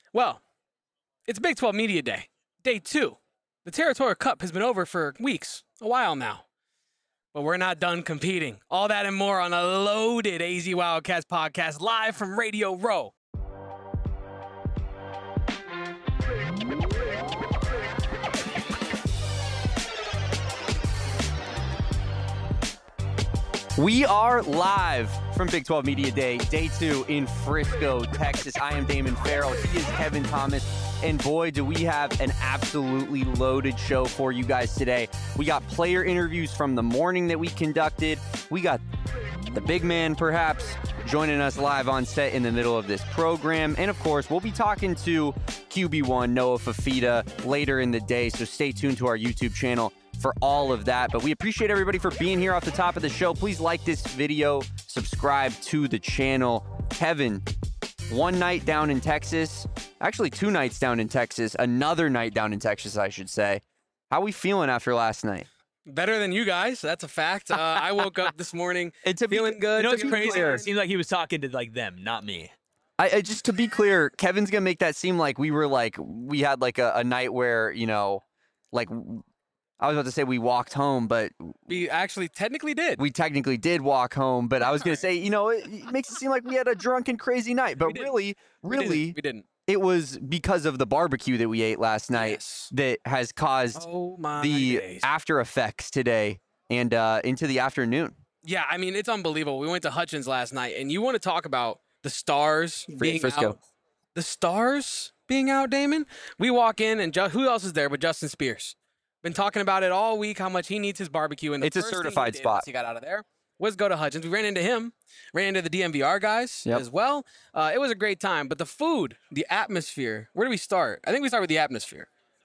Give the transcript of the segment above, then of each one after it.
Well, it's Big 12 Media Day, day 2. The Territorial Cup has been over for weeks, a while now. But we're not done competing. All that and more on a loaded AZ Wildcats podcast live from Radio Row. We are live from Big 12 Media Day, day 2 in Frisco, Texas. I am Damon Farrell. He is Kevin Thomas. And boy, do we have an absolutely loaded show for you guys today. We got player interviews from the morning that we conducted. We got the big man, perhaps, joining us live on set in the middle of this program. And of course, we'll be talking to QB1 Noah Fifita later in the day. So stay tuned to our YouTube channel for all of that. But we appreciate everybody for being here off the top of the show. Please like this video, subscribe to the channel. Kevin, one night down in Texas, actually 2 nights down in Texas, another night down in Texas, I should say. How we feeling after last night? Better than you guys, that's a fact. I woke up this morning feeling good. You know what's crazy? It seems like he was talking to like them, not me. I just to be clear, Kevin's gonna make that seem like we had like a night where, you know, like I was about to say we walked home, but we actually technically did. We technically did walk home, but I was going to say, you know, it makes it seem like we had a drunken, crazy night. But really, we didn't. It was because of the barbecue that we ate last night that has caused the after effects today and into the afternoon. Yeah, I mean, it's unbelievable. We went to Hutchins last night, and you want to talk about the stars being Frisco. out. The stars being out, Damon? We walk in, and who else is there but Justin Spears? Been talking about it all week, how much he needs his barbecue. And it's a certified spot. He got out of there was go to Hutchins. We ran into him, ran into the DMVR guys as well. It was a great time. But the food, the atmosphere, where do we start? I think we start with the atmosphere.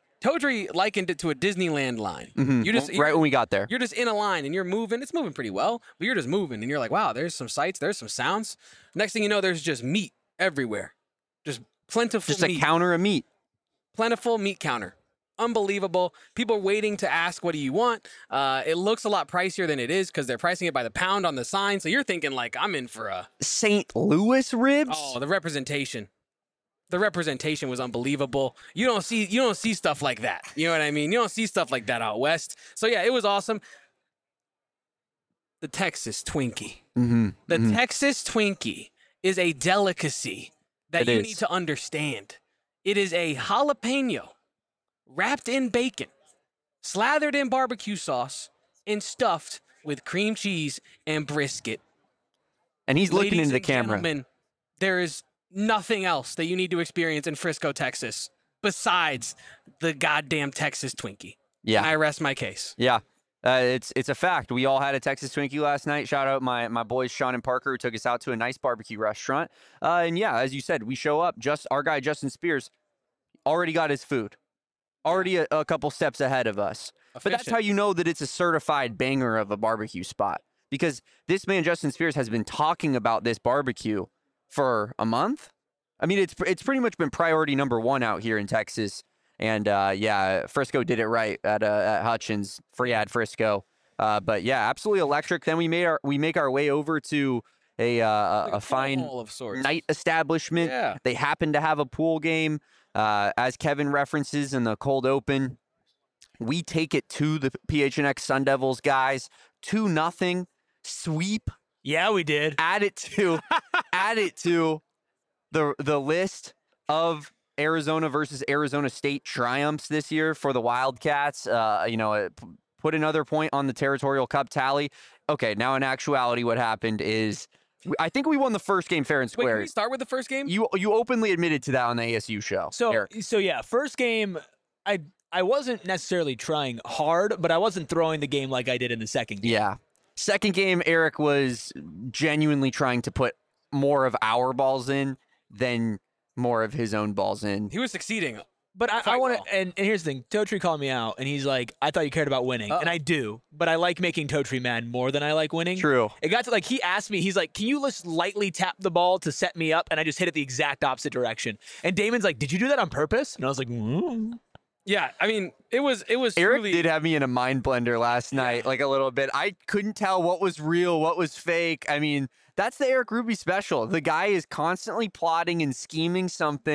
Totri likened it to a Disneyland line. Mm-hmm. Right when we got there. You're just in a line, and you're moving. It's moving pretty well, but you're just moving, and you're like, wow, there's some sights, there's some sounds. Next thing you know, there's just meat everywhere. Just plentiful meat. Just a counter of meat. Plentiful meat counter. Unbelievable. People waiting to ask, what do you want? It looks a lot pricier than it is because they're pricing it by the pound on the sign. So you're thinking like, I'm in for a St. Louis ribs. Oh, the representation. The representation was unbelievable. You don't see stuff like that. You know what I mean? You don't see stuff like that out west. So yeah, it was awesome. The Texas Twinkie. The Texas Twinkie is a delicacy that you need to understand. It is a jalapeno wrapped in bacon, slathered in barbecue sauce, and stuffed with cream cheese and brisket. And he's looking into the camera. Gentlemen, there is nothing else that you need to experience in Frisco, Texas, besides the goddamn Texas Twinkie. Yeah. And I rest my case. Yeah. It's a fact. We all had a Texas Twinkie last night. Shout out my boys, Sean and Parker, who took us out to a nice barbecue restaurant. And yeah, as you said, we show up. Our guy, Justin Spears, already got his food. Already a couple steps ahead of us. But that's how you know that it's a certified banger of a barbecue spot. Because this man, Justin Spears, has been talking about this barbecue for a month. I mean, it's pretty much been priority number 1 out here in Texas. And yeah, Frisco did it right at Hutchins. Free ad Frisco. But yeah, absolutely electric. Then we make our way over to a fine night establishment. Yeah. They happen to have a pool game. As Kevin references in the cold open, we take it to the PHNX Sun Devils guys 2-0 sweep. Yeah, we did. Add it to the list of Arizona versus Arizona State triumphs this year for the Wildcats. Put another point on the Territorial Cup tally. Okay, now in actuality, what happened is, I think we won the first game fair and square. Wait, can we start with the first game? You openly admitted to that on the ASU show. So yeah, first game, I wasn't necessarily trying hard, but I wasn't throwing the game like I did in the second game. Yeah. Second game, Eric was genuinely trying to put more of our balls in than more of his own balls in. He was succeeding. But I want to, and here's the thing. Totri called me out, and he's like, I thought you cared about winning. And I do, but I like making Totri mad more than I like winning. True. It got to, like, he asked me, he's like, can you just lightly tap the ball to set me up? And I just hit it the exact opposite direction. And Damon's like, did you do that on purpose? And I was like, Yeah, I mean, it was Eric truly... did have me in a mind blender last night, like a little bit. I couldn't tell what was real, what was fake. I mean, that's the Eric Ruby special. The guy is constantly plotting and scheming something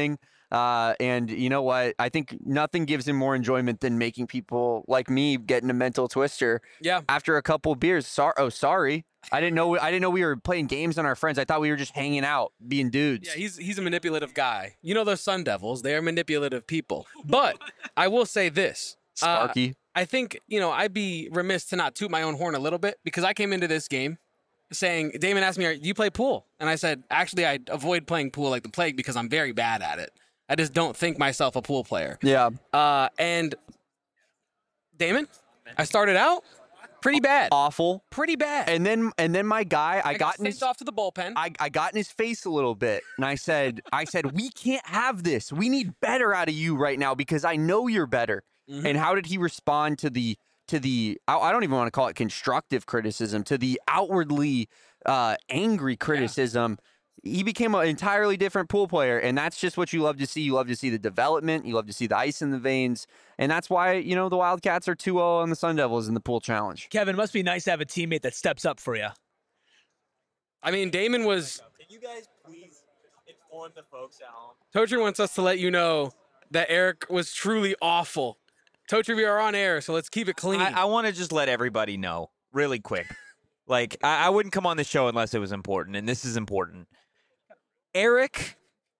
And you know what? I think nothing gives him more enjoyment than making people like me get in a mental twister. Yeah. After a couple beers. Sorry. I didn't know we were playing games on our friends. I thought we were just hanging out, being dudes. Yeah, he's a manipulative guy. You know those Sun Devils, they are manipulative people. But I will say this. Sparky. I think, I'd be remiss to not toot my own horn a little bit because I came into this game saying, Damon asked me, do you play pool? And I said, actually, I avoid playing pool like the plague because I'm very bad at it. I just don't think myself a pool player. Yeah. And Damon, I started out pretty bad. Awful. Pretty bad. And then my guy, I got sent off to the bullpen. I got in his face a little bit, and I said, we can't have this. We need better out of you right now because I know you're better. Mm-hmm. And how did he respond to the I don't even want to call it constructive criticism, to the outwardly angry criticism? Yeah. He became an entirely different pool player, and that's just what you love to see. You love to see the development. You love to see the ice in the veins, and that's why the Wildcats are 2-0 on the Sun Devils in the pool challenge. Kevin, it must be nice to have a teammate that steps up for you. I mean, Damon was. Can you guys please inform the folks at home? Totri wants us to let you know that Eric was truly awful. Totri, we are on air, so let's keep it clean. I want to just let everybody know really quick. Like, I wouldn't come on the show unless it was important, and this is important. Eric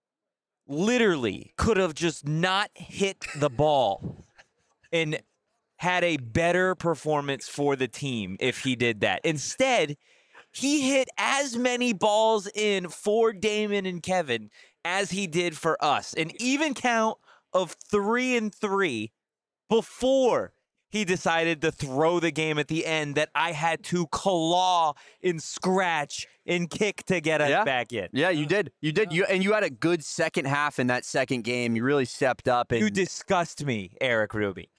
literally could have just not hit the ball and had a better performance for the team if he did that. Instead, he hit as many balls in for Damon and Kevin as he did for us. An even count of 3-3 before he decided to throw the game at the end that I had to claw and scratch and kick to get us back in. Yeah, you did. You did. You had a good second half in that second game. You really stepped up. And you disgust me, Eric Ruby.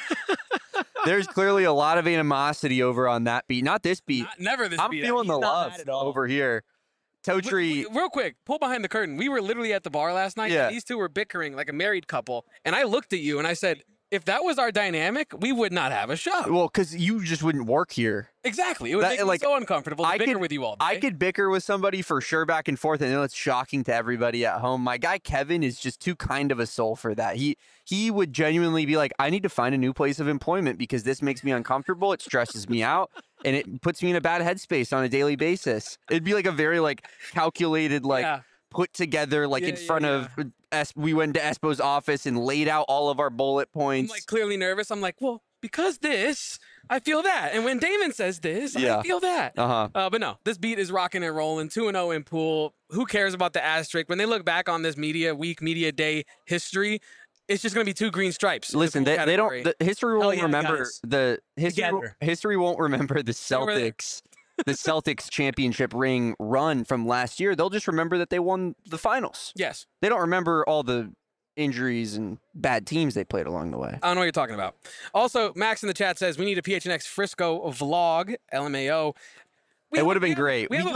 There's clearly a lot of animosity over on that beat. Not this beat. Never this beat. I'm feeling the love over here. Totri. Real quick, pull behind the curtain. We were literally at the bar last night. Yeah. And these two were bickering like a married couple. And I looked at you and I said, if that was our dynamic, we would not have a show. Well, because you just wouldn't work here. Exactly. It would make me so uncomfortable to bicker with you all day. I could bicker with somebody for sure back and forth. I know it's shocking to everybody at home. My guy Kevin is just too kind of a soul for that. He would genuinely be like, I need to find a new place of employment because this makes me uncomfortable. It stresses me out. And it puts me in a bad headspace on a daily basis. It'd be like a very calculated, put together, in front of we went to Espo's office and laid out all of our bullet points. I'm clearly nervous. I'm like, well, because this, I feel that. And when Damon says this, I feel that. But no, this beat is rocking and rolling. 2-0 in pool. Who cares about the asterisk? When they look back on this media day history, it's just going to be 2 green stripes. Listen, they don't. The history won't remember guys. the history won't remember the Celtics. The Celtics championship ring run from last year. They'll just remember that they won the finals. Yes. They don't remember all the injuries and bad teams they played along the way. I don't know what you're talking about. Also, Max in the chat says we need a PHNX Frisco vlog, LMAO. It would have been great. I have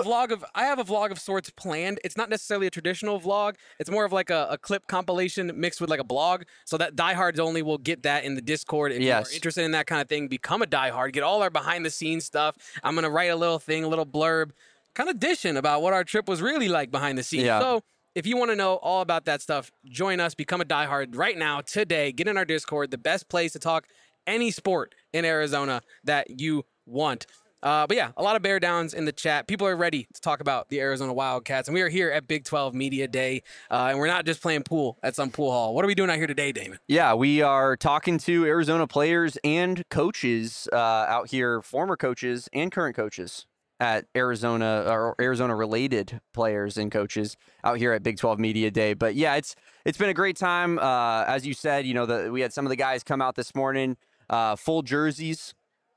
a vlog of sorts planned. It's not necessarily a traditional vlog. It's more of like a clip compilation mixed with like a blog. So that diehards only will get that in the Discord. If you are interested in that kind of thing, become a diehard. Get all our behind the scenes stuff. I'm going to write a little thing, a little blurb, kind of dishing about what our trip was really like behind the scenes. Yeah. So if you want to know all about that stuff, join us. Become a diehard right now, today. Get in our Discord, the best place to talk any sport in Arizona that you want. But yeah, a lot of bear downs in the chat. People are ready to talk about the Arizona Wildcats, and we are here at Big 12 Media Day, and we're not just playing pool at some pool hall. What are we doing out here today, Damon? Yeah, we are talking to Arizona players and coaches out here, former coaches and current coaches at Arizona, or Arizona-related players and coaches out here at Big 12 Media Day. But yeah, it's been a great time. As you said, we had some of the guys come out this morning, full jerseys.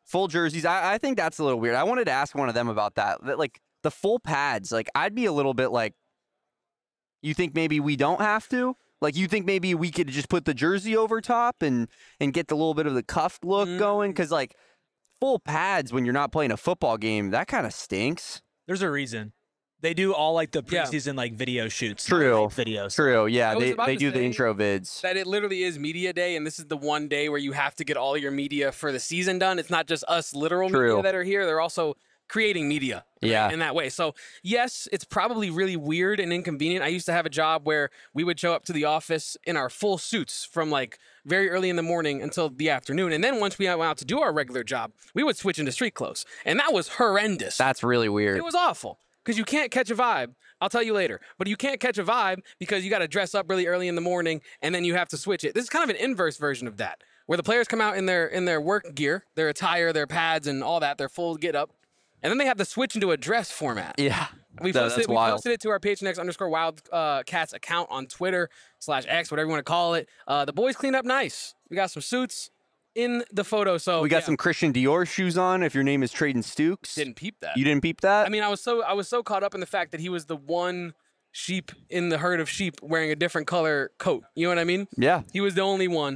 I think that's a little weird. I wanted to ask one of them about that. Like the full pads, I'd be a little bit like, you think maybe we don't have to? Like, you think maybe we could just put the jersey over top and get the little bit of the cuffed look going? Because full pads when you're not playing a football game, that kind of stinks. There's a reason. They do all the preseason video shoots. True. Videos. True. Yeah, they do the intro vids. That it literally is media day, and this is the one day where you have to get all your media for the season done. It's not just us literal media that are here. They're also creating media in that way. So yes, it's probably really weird and inconvenient. I used to have a job where we would show up to the office in our full suits from like very early in the morning until the afternoon. And then once we went out to do our regular job, we would switch into street clothes. And that was horrendous. That's really weird. It was awful because you can't catch a vibe. I'll tell you later. But you can't catch a vibe because you got to dress up really early in the morning and then you have to switch it. This is kind of an inverse version of that, where the players come out in their work gear, their attire, their pads, and all that, their full get up. And then they have to switch into a dress format. Yeah. We posted it to our PHNX_Wildcats account on Twitter /X, whatever you want to call it. The boys cleaned up nice. We got some suits in the photo. So we got some Christian Dior shoes on. If your name is Traden Stukes, didn't peep that. You didn't peep that? I mean, I was so caught up in the fact that he was the one sheep in the herd of sheep wearing a different color coat. You know what I mean? Yeah. He was the only one.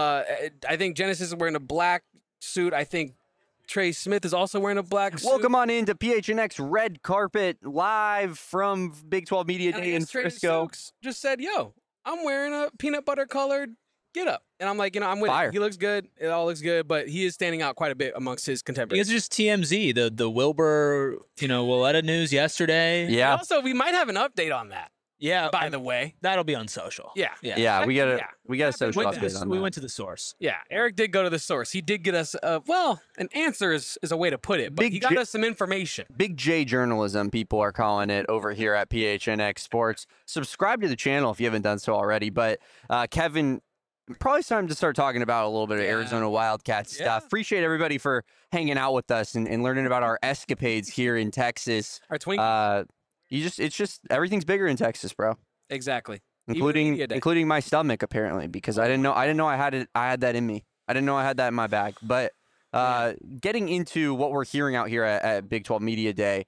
I think Genesis is wearing a black suit. I think Trey Smith is also wearing a black suit. Welcome on into PHNX Red Carpet live from Big 12 Media Day in Frisco. Just said, yo, I'm wearing a peanut butter colored get up. And I'm like, I'm with it. He looks good. It all looks good, but he is standing out quite a bit amongst his contemporaries. It's just TMZ, the Wilbur, Willetta news yesterday. Yeah. And also, we might have an update on that. Yeah. By the way, that'll be on social. Yeah. Yeah. We got a social update on that. We went to the source. Yeah. Eric did go to the source. He did get us, an answer is a way to put it, but he got us some information. Big J journalism, people are calling it over here at PHNX Sports. Subscribe to the channel if you haven't done so already. But Kevin, probably it's time to start talking about a little bit of Arizona Wildcats stuff. Appreciate everybody for hanging out with us and learning about our escapades here in Texas. Our Twinkies. It's just everything's bigger in Texas, bro. Exactly. Including my stomach, apparently, because I didn't know I had that in me. I didn't know I had that in my bag. But getting into what we're hearing out here at Big 12 Media Day,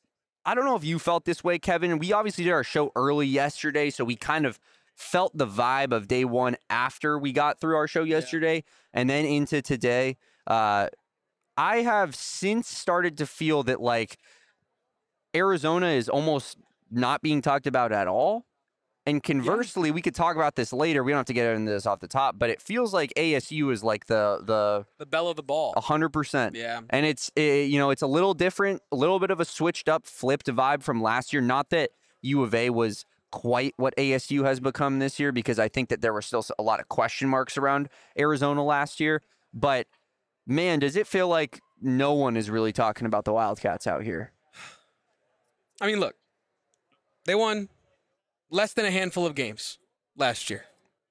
I don't know if you felt this way, Kevin. We obviously did our show early yesterday, so we kind of felt the vibe of day one after we got through our show yesterday and then into today. I have since started to feel that, like, Arizona is almost not being talked about at all. And conversely, we could talk about this later. We don't have to get into this off the top, but it feels like ASU is like the belle of the ball. 100%. Yeah. And it's a little different, a little bit of a switched up, flipped vibe from last year. Not that U of A was quite what ASU has become this year, because I think that there were still a lot of question marks around Arizona last year. But man, does it feel like no one is really talking about the Wildcats out here? I mean, look, they won less than a handful of games last year.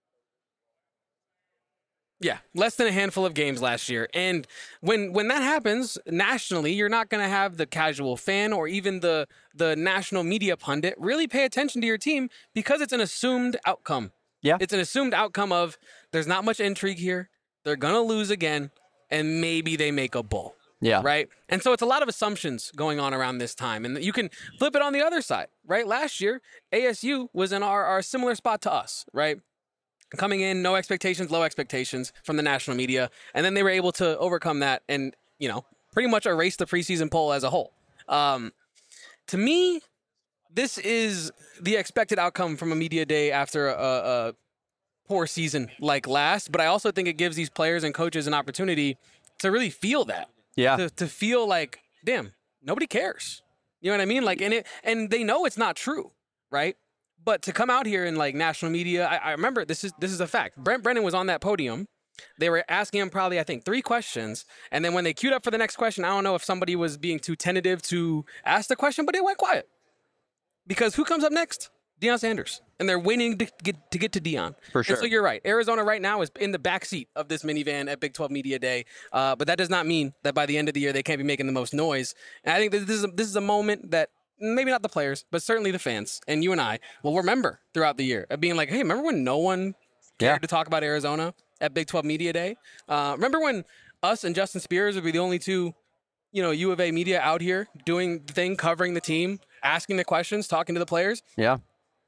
Yeah, less than a handful of games last year. And when that happens nationally, you're not going to have the casual fan or even the national media pundit really pay attention to your team, because it's an assumed outcome. Yeah. It's an assumed outcome of there's not much intrigue here. They're going to lose again, and maybe they make a bowl. Yeah. Right. And so it's a lot of assumptions going on around this time. And you can flip it on the other side, right? Last year, ASU was in our similar spot to us, right? Coming in, no expectations, low expectations from the national media. And then they were able to overcome that and, pretty much erase the preseason poll as a whole. To me, this is the expected outcome from a media day after a poor season like last. But I also think it gives these players and coaches an opportunity to really feel that. Yeah. To feel like, damn, nobody cares. You know what I mean? Like, and they know it's not true, right? But to come out here in like national media, I remember this is a fact. Brent Brennan was on that podium. They were asking him probably, I think, 3 questions. And then when they queued up for the next question, I don't know if somebody was being too tentative to ask the question, but it went quiet. Because who comes up next? Deion Sanders. And they're waiting to get to Deion. For sure. And so you're right. Arizona right now is in the backseat of this minivan at Big 12 Media Day. But that does not mean that by the end of the year they can't be making the most noise. And I think that this is a moment that maybe not the players, but certainly the fans and you and I will remember throughout the year of being like, hey, remember when no one cared to talk about Arizona at Big 12 Media Day? Remember when us and Justin Spears would be the only two, U of A media out here doing the thing, covering the team, asking the questions, talking to the players? Yeah.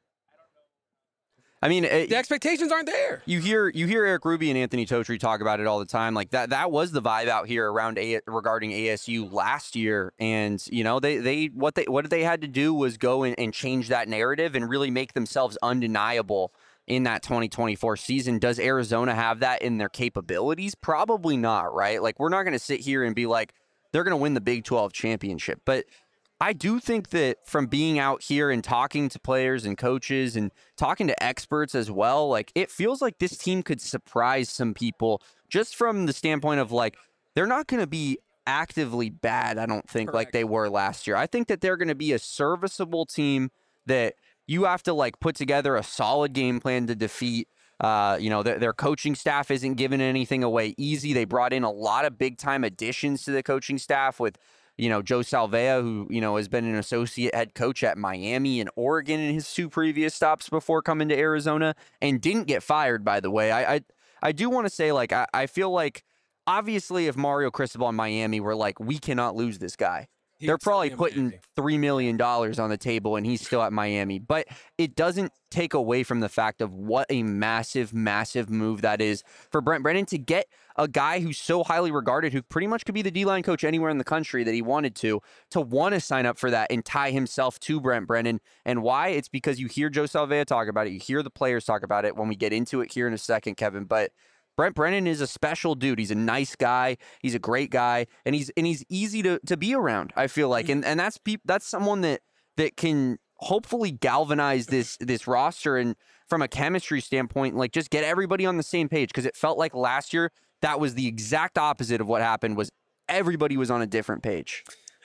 I mean, the expectations aren't there. You hear Eric Ruby and Anthony Totri talk about it all the time. Like that was the vibe out here regarding ASU last year. And what they had to do was go and change that narrative and really make themselves undeniable in that 2024 season. Does Arizona have that in their capabilities? Probably not, right? Like, we're not going to sit here and be like, they're going to win the Big 12 championship. But I do think that from being out here and talking to players and coaches and talking to experts as well, like it feels like this team could surprise some people just from the standpoint of like, they're not going to be actively bad, I don't think, like they were last year. I think that they're going to be a serviceable team that you have to like put together a solid game plan to defeat. Their coaching staff isn't giving anything away easy. They brought in a lot of big time additions to the coaching staff with, Joe Salvea, who, has been an associate head coach at Miami and Oregon in his 2 previous stops before coming to Arizona and didn't get fired, by the way. I do want to say, like, I feel like obviously if Mario Cristobal in Miami were like, we cannot lose this guy, they're probably putting $3 million on the table and he's still at Miami. But it doesn't take away from the fact of what a massive, massive move that is for Brent Brennan to get a guy who's so highly regarded, who pretty much could be the D-line coach anywhere in the country that he wanted to want to sign up for that and tie himself to Brent Brennan. And why? It's because you hear Joe Salvea talk about it. You hear the players talk about it when we get into it here in a second, Kevin. But Brent Brennan is a special dude. He's a nice guy. He's a great guy, and he's easy to be around, I feel like. And that's someone that can hopefully galvanize this roster and from a chemistry standpoint, like just get everybody on the same page, because it felt like last year that was the exact opposite of what happened. Was everybody was on a different page.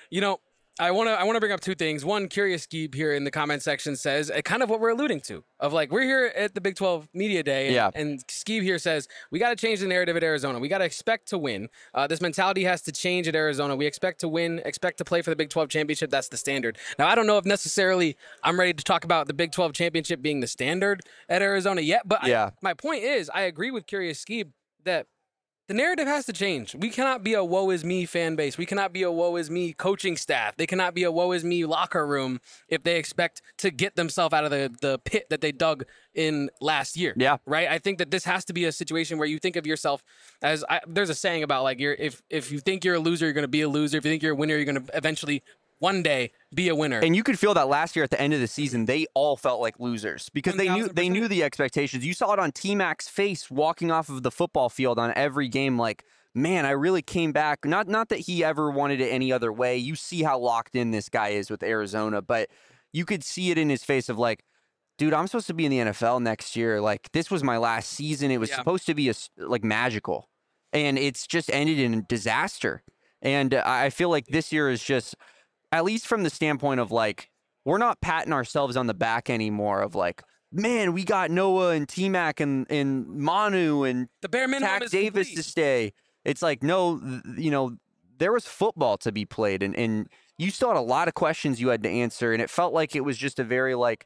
I want to bring up 2 things. One, Curious Skeeb here in the comment section says kind of what we're alluding to, of like, we're here at the Big 12 Media Day, and Skeeb here says, we got to change the narrative at Arizona. We got to expect to win. This mentality has to change at Arizona. We expect to win, expect to play for the Big 12 championship. That's the standard. Now, I don't know if necessarily I'm ready to talk about the Big 12 championship being the standard at Arizona yet, but my point is, I agree with Curious Skeeb that the narrative has to change. We cannot be a woe is me fan base. We cannot be a woe is me coaching staff. They cannot be a woe is me locker room if they expect to get themselves out of the pit that they dug in last year. Yeah. Right? I think that this has to be a situation where you think of yourself as, there's a saying about like, if you think you're a loser, you're going to be a loser. If you think you're a winner, you're going to eventually one day be a winner. And you could feel that last year at the end of the season, they all felt like losers because 1,000%. they knew the expectations. You saw it on T-Mac's face walking off of the football field on every game, like, man, I really came back. Not that he ever wanted it any other way. You see how locked in this guy is with Arizona, but you could see it in his face of like, dude, I'm supposed to be in the NFL next year. Like, this was my last season. It was supposed to be like magical, and it's just ended in a disaster. And I feel like this year is just, at least from the standpoint of like, we're not patting ourselves on the back anymore of like, man, we got Noah and T-Mac and Manu and the bare minimum Tack is Davis complete to stay. It's like, no, there was football to be played, and you still had a lot of questions you had to answer, and it felt like it was just a very like,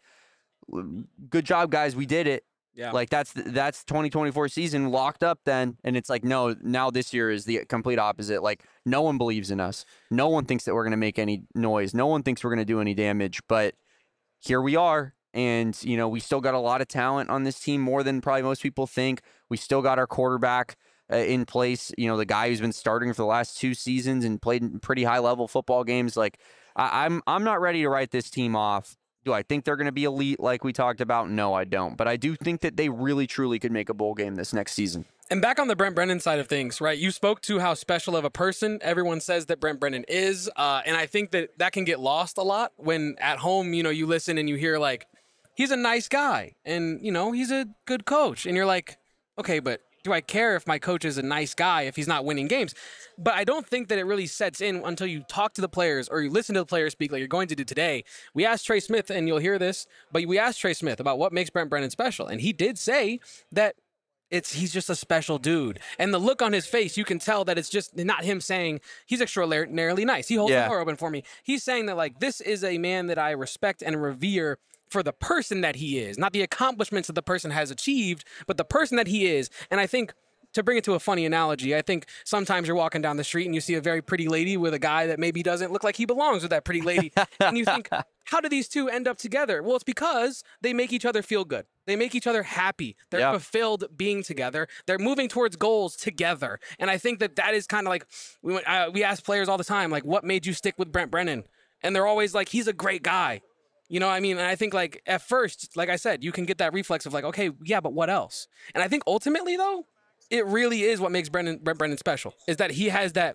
good job, guys, we did it. Yeah. Like that's 2024 season locked up then. And it's like, no, now this year is the complete opposite. Like no one believes in us. No one thinks that we're going to make any noise. No one thinks we're going to do any damage, but here we are. And, we still got a lot of talent on this team, more than probably most people think. We still got our quarterback in place. The guy who's been starting for the last 2 seasons and played pretty high level football games. Like I'm not ready to write this team off. Do I think they're going to be elite like we talked about? No, I don't. But I do think that they really, truly could make a bowl game this next season. And back on the Brent Brennan side of things, right? You spoke to how special of a person everyone says that Brent Brennan is. And I think that can get lost a lot when at home, you listen and you hear like, he's a nice guy and, he's a good coach. And you're like, okay, but do I care if my coach is a nice guy if he's not winning games? But I don't think that it really sets in until you talk to the players or you listen to the players speak like you're going to do today. We asked Trey Smith, and you'll hear this, but we asked Trey Smith about what makes Brent Brennan special. And he did say that he's just a special dude. And the look on his face, you can tell that it's just not him saying he's extraordinarily nice. He holds the door open for me. He's saying that like, this is a man that I respect and revere for the person that he is, not the accomplishments that the person has achieved, but the person that he is. And I think, to bring it to a funny analogy, I think sometimes you're walking down the street and you see a very pretty lady with a guy that maybe doesn't look like he belongs with that pretty lady. And you think, how do these two end up together? Well, it's because they make each other feel good. They make each other happy. They're fulfilled being together. They're moving towards goals together. And I think that is kind of like, we ask players all the time, like, what made you stick with Brent Brennan? And they're always like, he's a great guy. You know what I mean? And I think, like, at first, like I said, you can get that reflex of like, okay, yeah, but what else? And I think ultimately, though, it really is what makes Brent Brennan special, is that he has that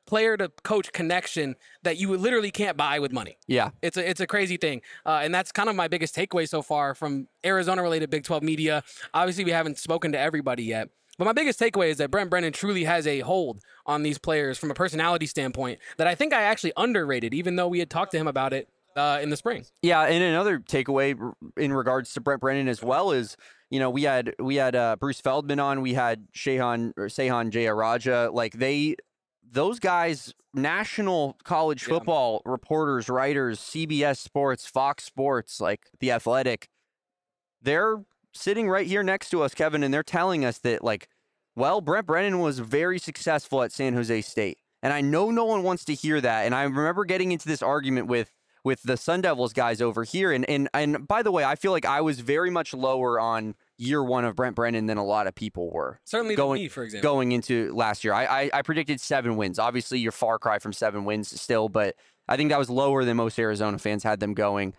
player to coach connection that you literally can't buy with money. Yeah. It's a crazy thing. And that's kind of my biggest takeaway so far from Arizona related Big 12 media. Obviously, we haven't spoken to everybody yet. But my biggest takeaway is that Brent Brennan truly has a hold on these players from a personality standpoint that I think I actually underrated, even though we had talked to him about it in the spring. Yeah, and another takeaway in regards to Brent Brennan as well is, you know, we had Bruce Feldman on, we had Sehan Jayaraja, like those guys, national college football reporters, writers, CBS Sports, Fox Sports, like The Athletic, they're sitting right here next to us, Kevin, and they're telling us that, like, well, Brent Brennan was very successful at San Jose State. And I know no one wants to hear that. And I remember getting into this argument with the Sun Devils guys over here. And by the way, I feel like I was very much lower on year one of Brent Brennan than a lot of people were. Certainly me, for example. Going into last year. I predicted 7 wins. Obviously, you're far cry from 7 wins still, but I think that was lower than most Arizona fans had them going.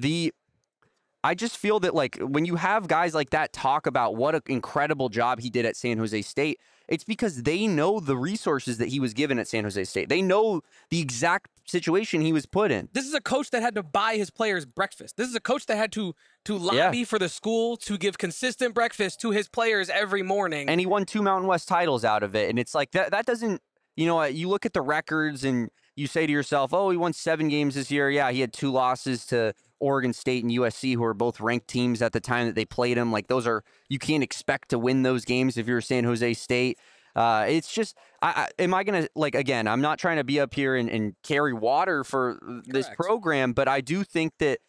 I just feel that, like, when you have guys like that talk about what an incredible job he did at San Jose State, it's because they know the resources that he was given at San Jose State. They know the exact situation he was put in. This is a coach that had to buy his players breakfast. This is a coach that had to lobby for the school to give consistent breakfast to his players every morning. And he won 2 Mountain West titles out of it. And it's like that doesn't, you know, you look at the records and you say to yourself, oh, he won 7 games this year. Yeah, he had 2 losses to Oregon State and USC, who are both ranked teams at the time that they played him. Like, those are, you can't expect to win those games if you're San Jose State. It's just, am I going to, like, again, I'm not trying to be up here and carry water for this program, but I do think that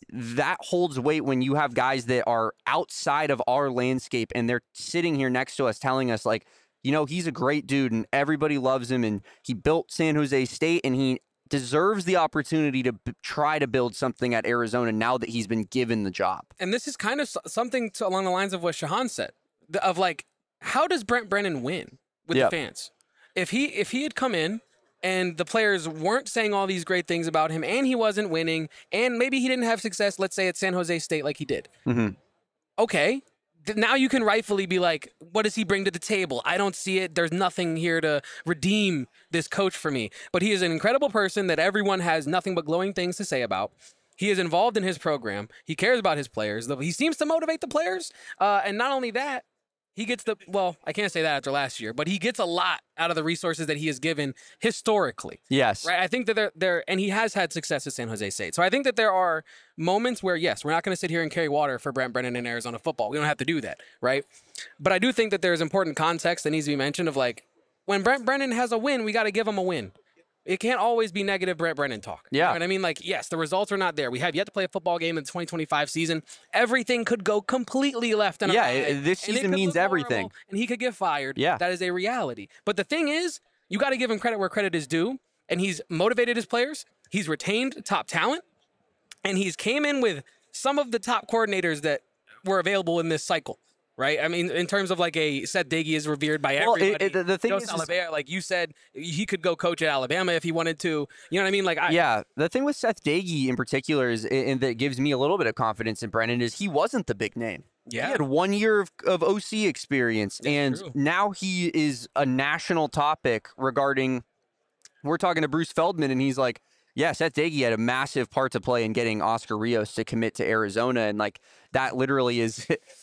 holds weight when you have guys that are outside of our landscape and they're sitting here next to us telling us, like, you know, he's a great dude and everybody loves him and he built San Jose State and he deserves the opportunity to try to build something at Arizona now that he's been given the job. And this is kind of something along the lines of what Shahan said, of like, how does Brent Brennan win with the fans? If he had come in and the players weren't saying all these great things about him and he wasn't winning and maybe he didn't have success, let's say at San Jose State like he did. Mm-hmm. Okay. Now you can rightfully be like, what does he bring to the table? I don't see it. There's nothing here to redeem this coach for me. But he is an incredible person that everyone has nothing but glowing things to say about. He is involved in his program. He cares about his players. He seems to motivate the players. And not only that, he gets I can't say that after last year, but he gets a lot out of the resources that he has given historically. Yes. Right. I think that and he has had success at San Jose State. So I think that there are moments where, yes, we're not going to sit here and carry water for Brent Brennan in Arizona football. We don't have to do that. Right. But I do think that there's important context that needs to be mentioned of, like, when Brent Brennan has a win, we got to give him a win. It can't always be negative Brent Brennan talk. Yeah. You know what I mean? Like, yes, the results are not there. We have yet to play a football game in the 2025 season. Everything could go completely left and awry. This season means everything. And he could get fired. Yeah. That is a reality. But the thing is, you got to give him credit where credit is due. And he's motivated his players. He's retained top talent. And he's came in with some of the top coordinators that were available in this cycle. Right? I mean, in terms of, like, Seth Doege is revered by everybody. The thing is, like you said, he could go coach at Alabama if he wanted to. You know what I mean? Like, the thing with Seth Doege in particular is, and that gives me a little bit of confidence in Brennan, is he wasn't the big name. Yeah. He had 1 year of OC experience, and now he is a national topic regarding, we're talking to Bruce Feldman, and he's like, yeah, Seth Doege had a massive part to play in getting Oscar Rios to commit to Arizona, and, like, that literally is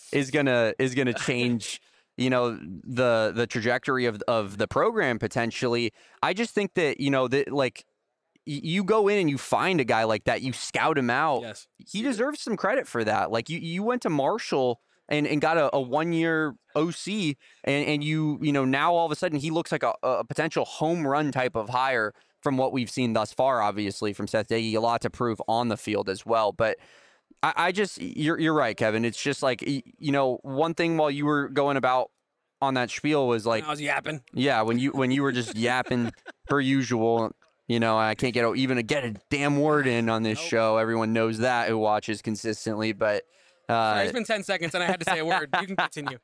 gonna change, you know, the trajectory of the program potentially. I just think that, you know, that, like, you go in and you find a guy like that, you scout him out. Yes. He deserves some credit for that. Like, you went to Marshall and got a 1 year OC, and you know, now all of a sudden he looks like a potential home run type of hire from what we've seen thus far, obviously, from Seth Doege. A lot to prove on the field as well. But I just, you're right, Kevin. It's just like, you know, one thing while you were going about on that spiel was like, I was yapping. Yeah, when you were just yapping per usual. You know, I can't get a damn word in on this show. Everyone knows that who watches consistently. But sorry, it's been 10 seconds and I had to say a word. You can continue.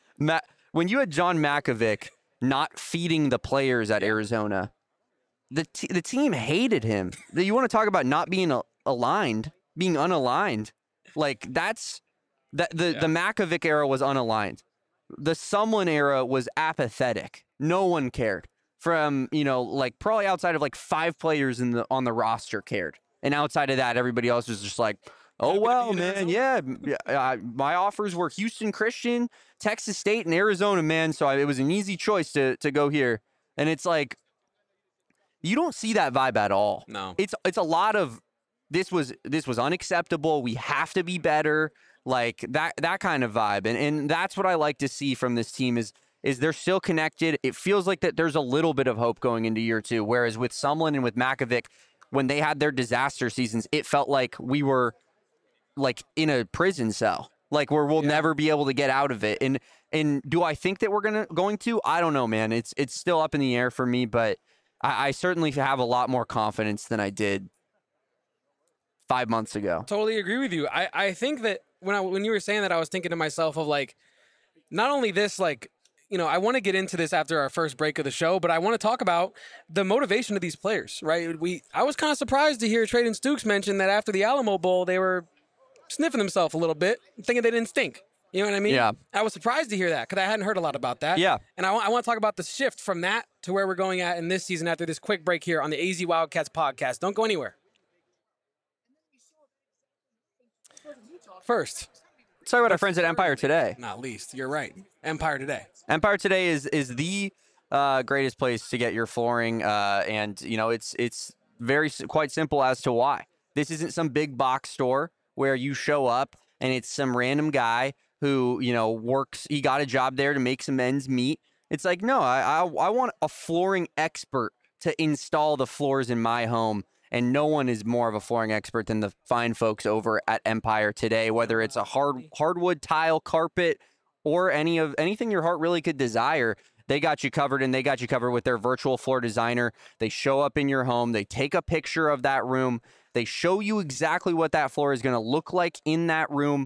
When you had John Makovic not feeding the players at Arizona, the team hated him. You want to talk about not being aligned, being unaligned? Like, the Makovic era was unaligned. The Sumlin era was apathetic. No one cared. from, like probably outside of like 5 players on the roster cared. And outside of that, everybody else was just like, oh, well, man, yeah, my offers were Houston Christian, Texas State, and Arizona, man. So it was an easy choice to go here. And it's like, you don't see that vibe at all. No. It's a lot of, this was unacceptable. We have to be better. Like that kind of vibe. And that's what I like to see from this team is they're still connected. It feels like that there's a little bit of hope going into year 2. Whereas with Sumlin and with Makovic, when they had their disaster seasons, it felt like we were like in a prison cell, like where we'll never be able to get out of it. And do I think that we're going to? I don't know, man. It's still up in the air for me, but I certainly have a lot more confidence than I did 5 months ago. Totally agree with you. I think that when you were saying that, I was thinking to myself of like, not only this, like, I want to get into this after our first break of the show, but I want to talk about the motivation of these players, right? I was kind of surprised to hear Trayden Stukes mention that after the Alamo Bowl, they were sniffing themselves a little bit, thinking they didn't stink. You know what I mean? Yeah. I was surprised to hear that because I hadn't heard a lot about that. Yeah. And I want to talk about the shift from that to where we're going at in this season after this quick break here on the AZ Wildcats podcast. Don't go anywhere. First, let's talk about our friends at Empire Today. Not least. You're right. Empire Today. Empire Today is the greatest place to get your flooring, and it's quite simple as to why. This isn't some big box store where you show up and it's some random guy who works. He got a job there to make some ends meet. It's like, no, I want a flooring expert to install the floors in my home. And no one is more of a flooring expert than the fine folks over at Empire Today, whether it's a hardwood tile, carpet, or anything your heart really could desire. They got you covered, and they got you covered with their virtual floor designer. They show up in your home. They take a picture of that room. They show you exactly what that floor is going to look like in that room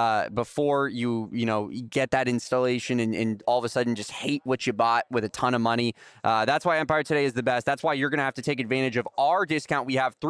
before you get that installation and all of a sudden just hate what you bought with a ton of money. That's why Empire Today is the best. That's why you're going to have to take advantage of our discount. We have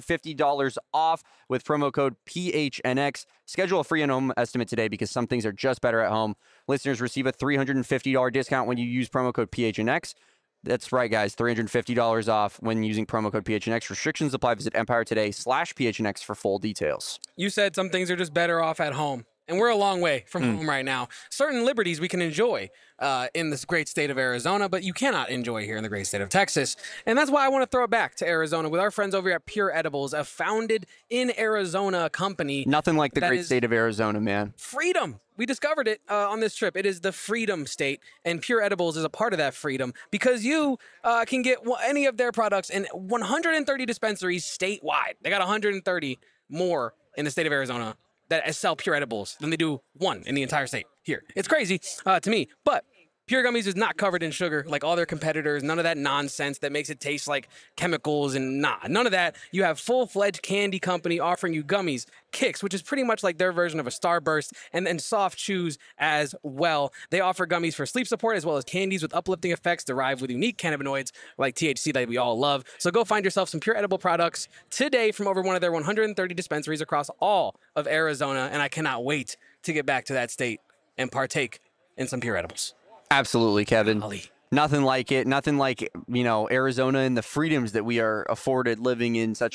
$350 off with promo code PHNX. Schedule a free in-home estimate today because some things are just better at home. Listeners receive a $350 discount when you use promo code PHNX. That's right, guys. $350 off when using promo code PHNX. Restrictions apply. Visit EmpireToday/PHNX for full details. You said some things are just better off at home. And we're a long way from home right now. Certain liberties we can enjoy in this great state of Arizona, but you cannot enjoy here in the great state of Texas. And that's why I want to throw it back to Arizona with our friends over at Pure Edibles, a founded in Arizona company. Nothing like the great state of Arizona, man. Freedom. We discovered it on this trip. It is the freedom state, and Pure Edibles is a part of that freedom because you can get any of their products in 130 dispensaries statewide. They got 130 more in the state of Arizona that sell Pure Edibles than they do one in the entire state here. It's crazy to me, but Pure Gummies is not covered in sugar like all their competitors. None of that nonsense that makes it taste like chemicals and none of that. You have full-fledged candy company offering you gummies, Kicks, which is pretty much like their version of a Starburst, and then soft chews as well. They offer gummies for sleep support as well as candies with uplifting effects derived with unique cannabinoids like THC that we all love. So go find yourself some Pure Edible products today from over one of their 130 dispensaries across all of Arizona, and I cannot wait to get back to that state and partake in some Pure Edibles. Absolutely, Kevin. Golly. Nothing like it. Nothing like, Arizona and the freedoms that we are afforded living in such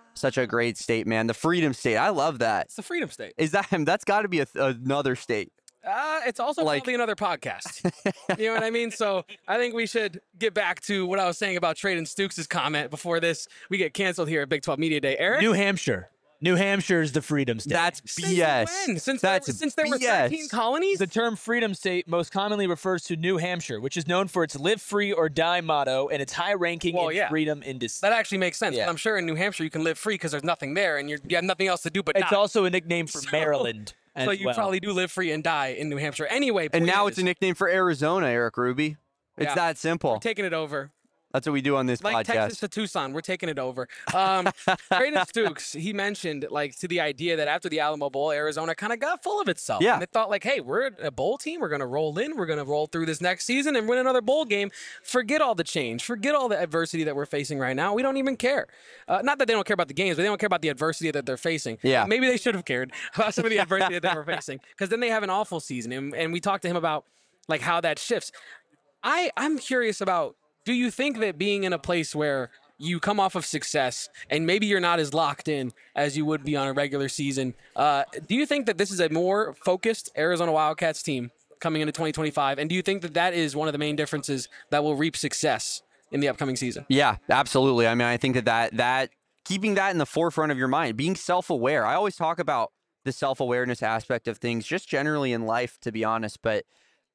a great state, man. The freedom state. I love that. It's the freedom state. That's got to be another state. It's also probably another podcast. You know what I mean? So I think we should get back to what I was saying about Trayden Stukes' comment before we get canceled here at Big 12 Media Day. Eric? New Hampshire. New Hampshire is the freedom state. That's BS. Since there were BS. 13 colonies? The term freedom state most commonly refers to New Hampshire, which is known for its live free or die motto and its high ranking in freedom in dissent. That actually makes sense. Yeah. But I'm sure in New Hampshire you can live free because there's nothing there and you have nothing else to do but It's die. also a nickname for Maryland. So you probably do live free and die in New Hampshire. Anyway, And now it's a nickname for Arizona, Eric Ruby. It's that simple. We're taking it over. That's what we do on this Like podcast. Texas to Tucson, we're taking it over. Trayden Stukes, he mentioned to the idea that after the Alamo Bowl, Arizona kind of got full of itself. Yeah. And they thought hey, we're a bowl team. We're going to roll in. We're going to roll through this next season and win another bowl game. Forget all the change. Forget all the adversity that we're facing right now. We don't even care. Not that they don't care about the games, but they don't care about the adversity that they're facing. Yeah. Maybe they should have cared about some of the adversity that they were facing because then they have an awful season. And we talked to him about how that shifts. I'm curious about do you think that being in a place where you come off of success and maybe you're not as locked in as you would be on a regular season, do you think that this is a more focused Arizona Wildcats team coming into 2025? And do you think that that is one of the main differences that will reap success in the upcoming season? Yeah, absolutely. I mean, I think that keeping that in the forefront of your mind, being self-aware. I always talk about the self-awareness aspect of things just generally in life, to be honest. But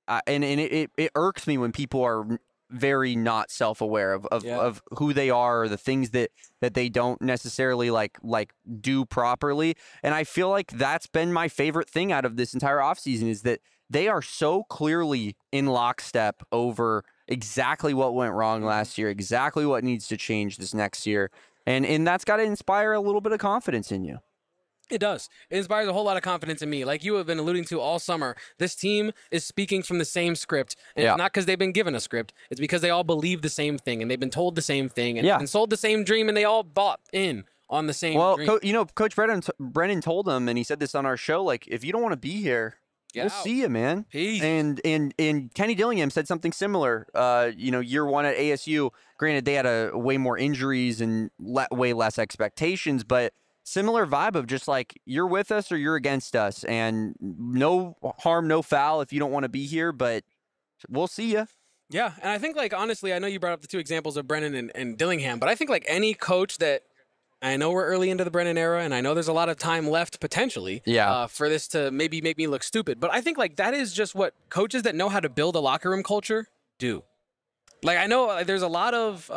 it irks me when people are very not self-aware of who they are or the things that they don't necessarily like do properly. And I feel like that's been my favorite thing out of this entire offseason is that they are so clearly in lockstep over exactly what went wrong last year, exactly what needs to change this next year. And that's got to inspire a little bit of confidence in you. It does. It inspires a whole lot of confidence in me. Like you have been alluding to all summer, this team is speaking from the same script. And it's not because they've been given a script. It's because they all believe the same thing and they've been told the same thing and sold the same dream and they all bought in on the same dream. Well, Coach Brennan told them, and he said this on our show, like, if you don't want to be here, we'll see you, man. Peace. And Kenny Dillingham said something similar. Year one at ASU, granted they had way more injuries and way less expectations, but similar vibe of just like, you're with us or you're against us, and no harm, no foul if you don't want to be here, but we'll see you. Yeah, and I think, like, honestly, I know you brought up the two examples of Brennan and Dillingham, but I think, like, any coach that I know we're early into the Brennan era, and I know there's a lot of time left potentially for this to maybe make me look stupid, but I think, like, that is just what coaches that know how to build a locker room culture do. Like, I know there's a lot of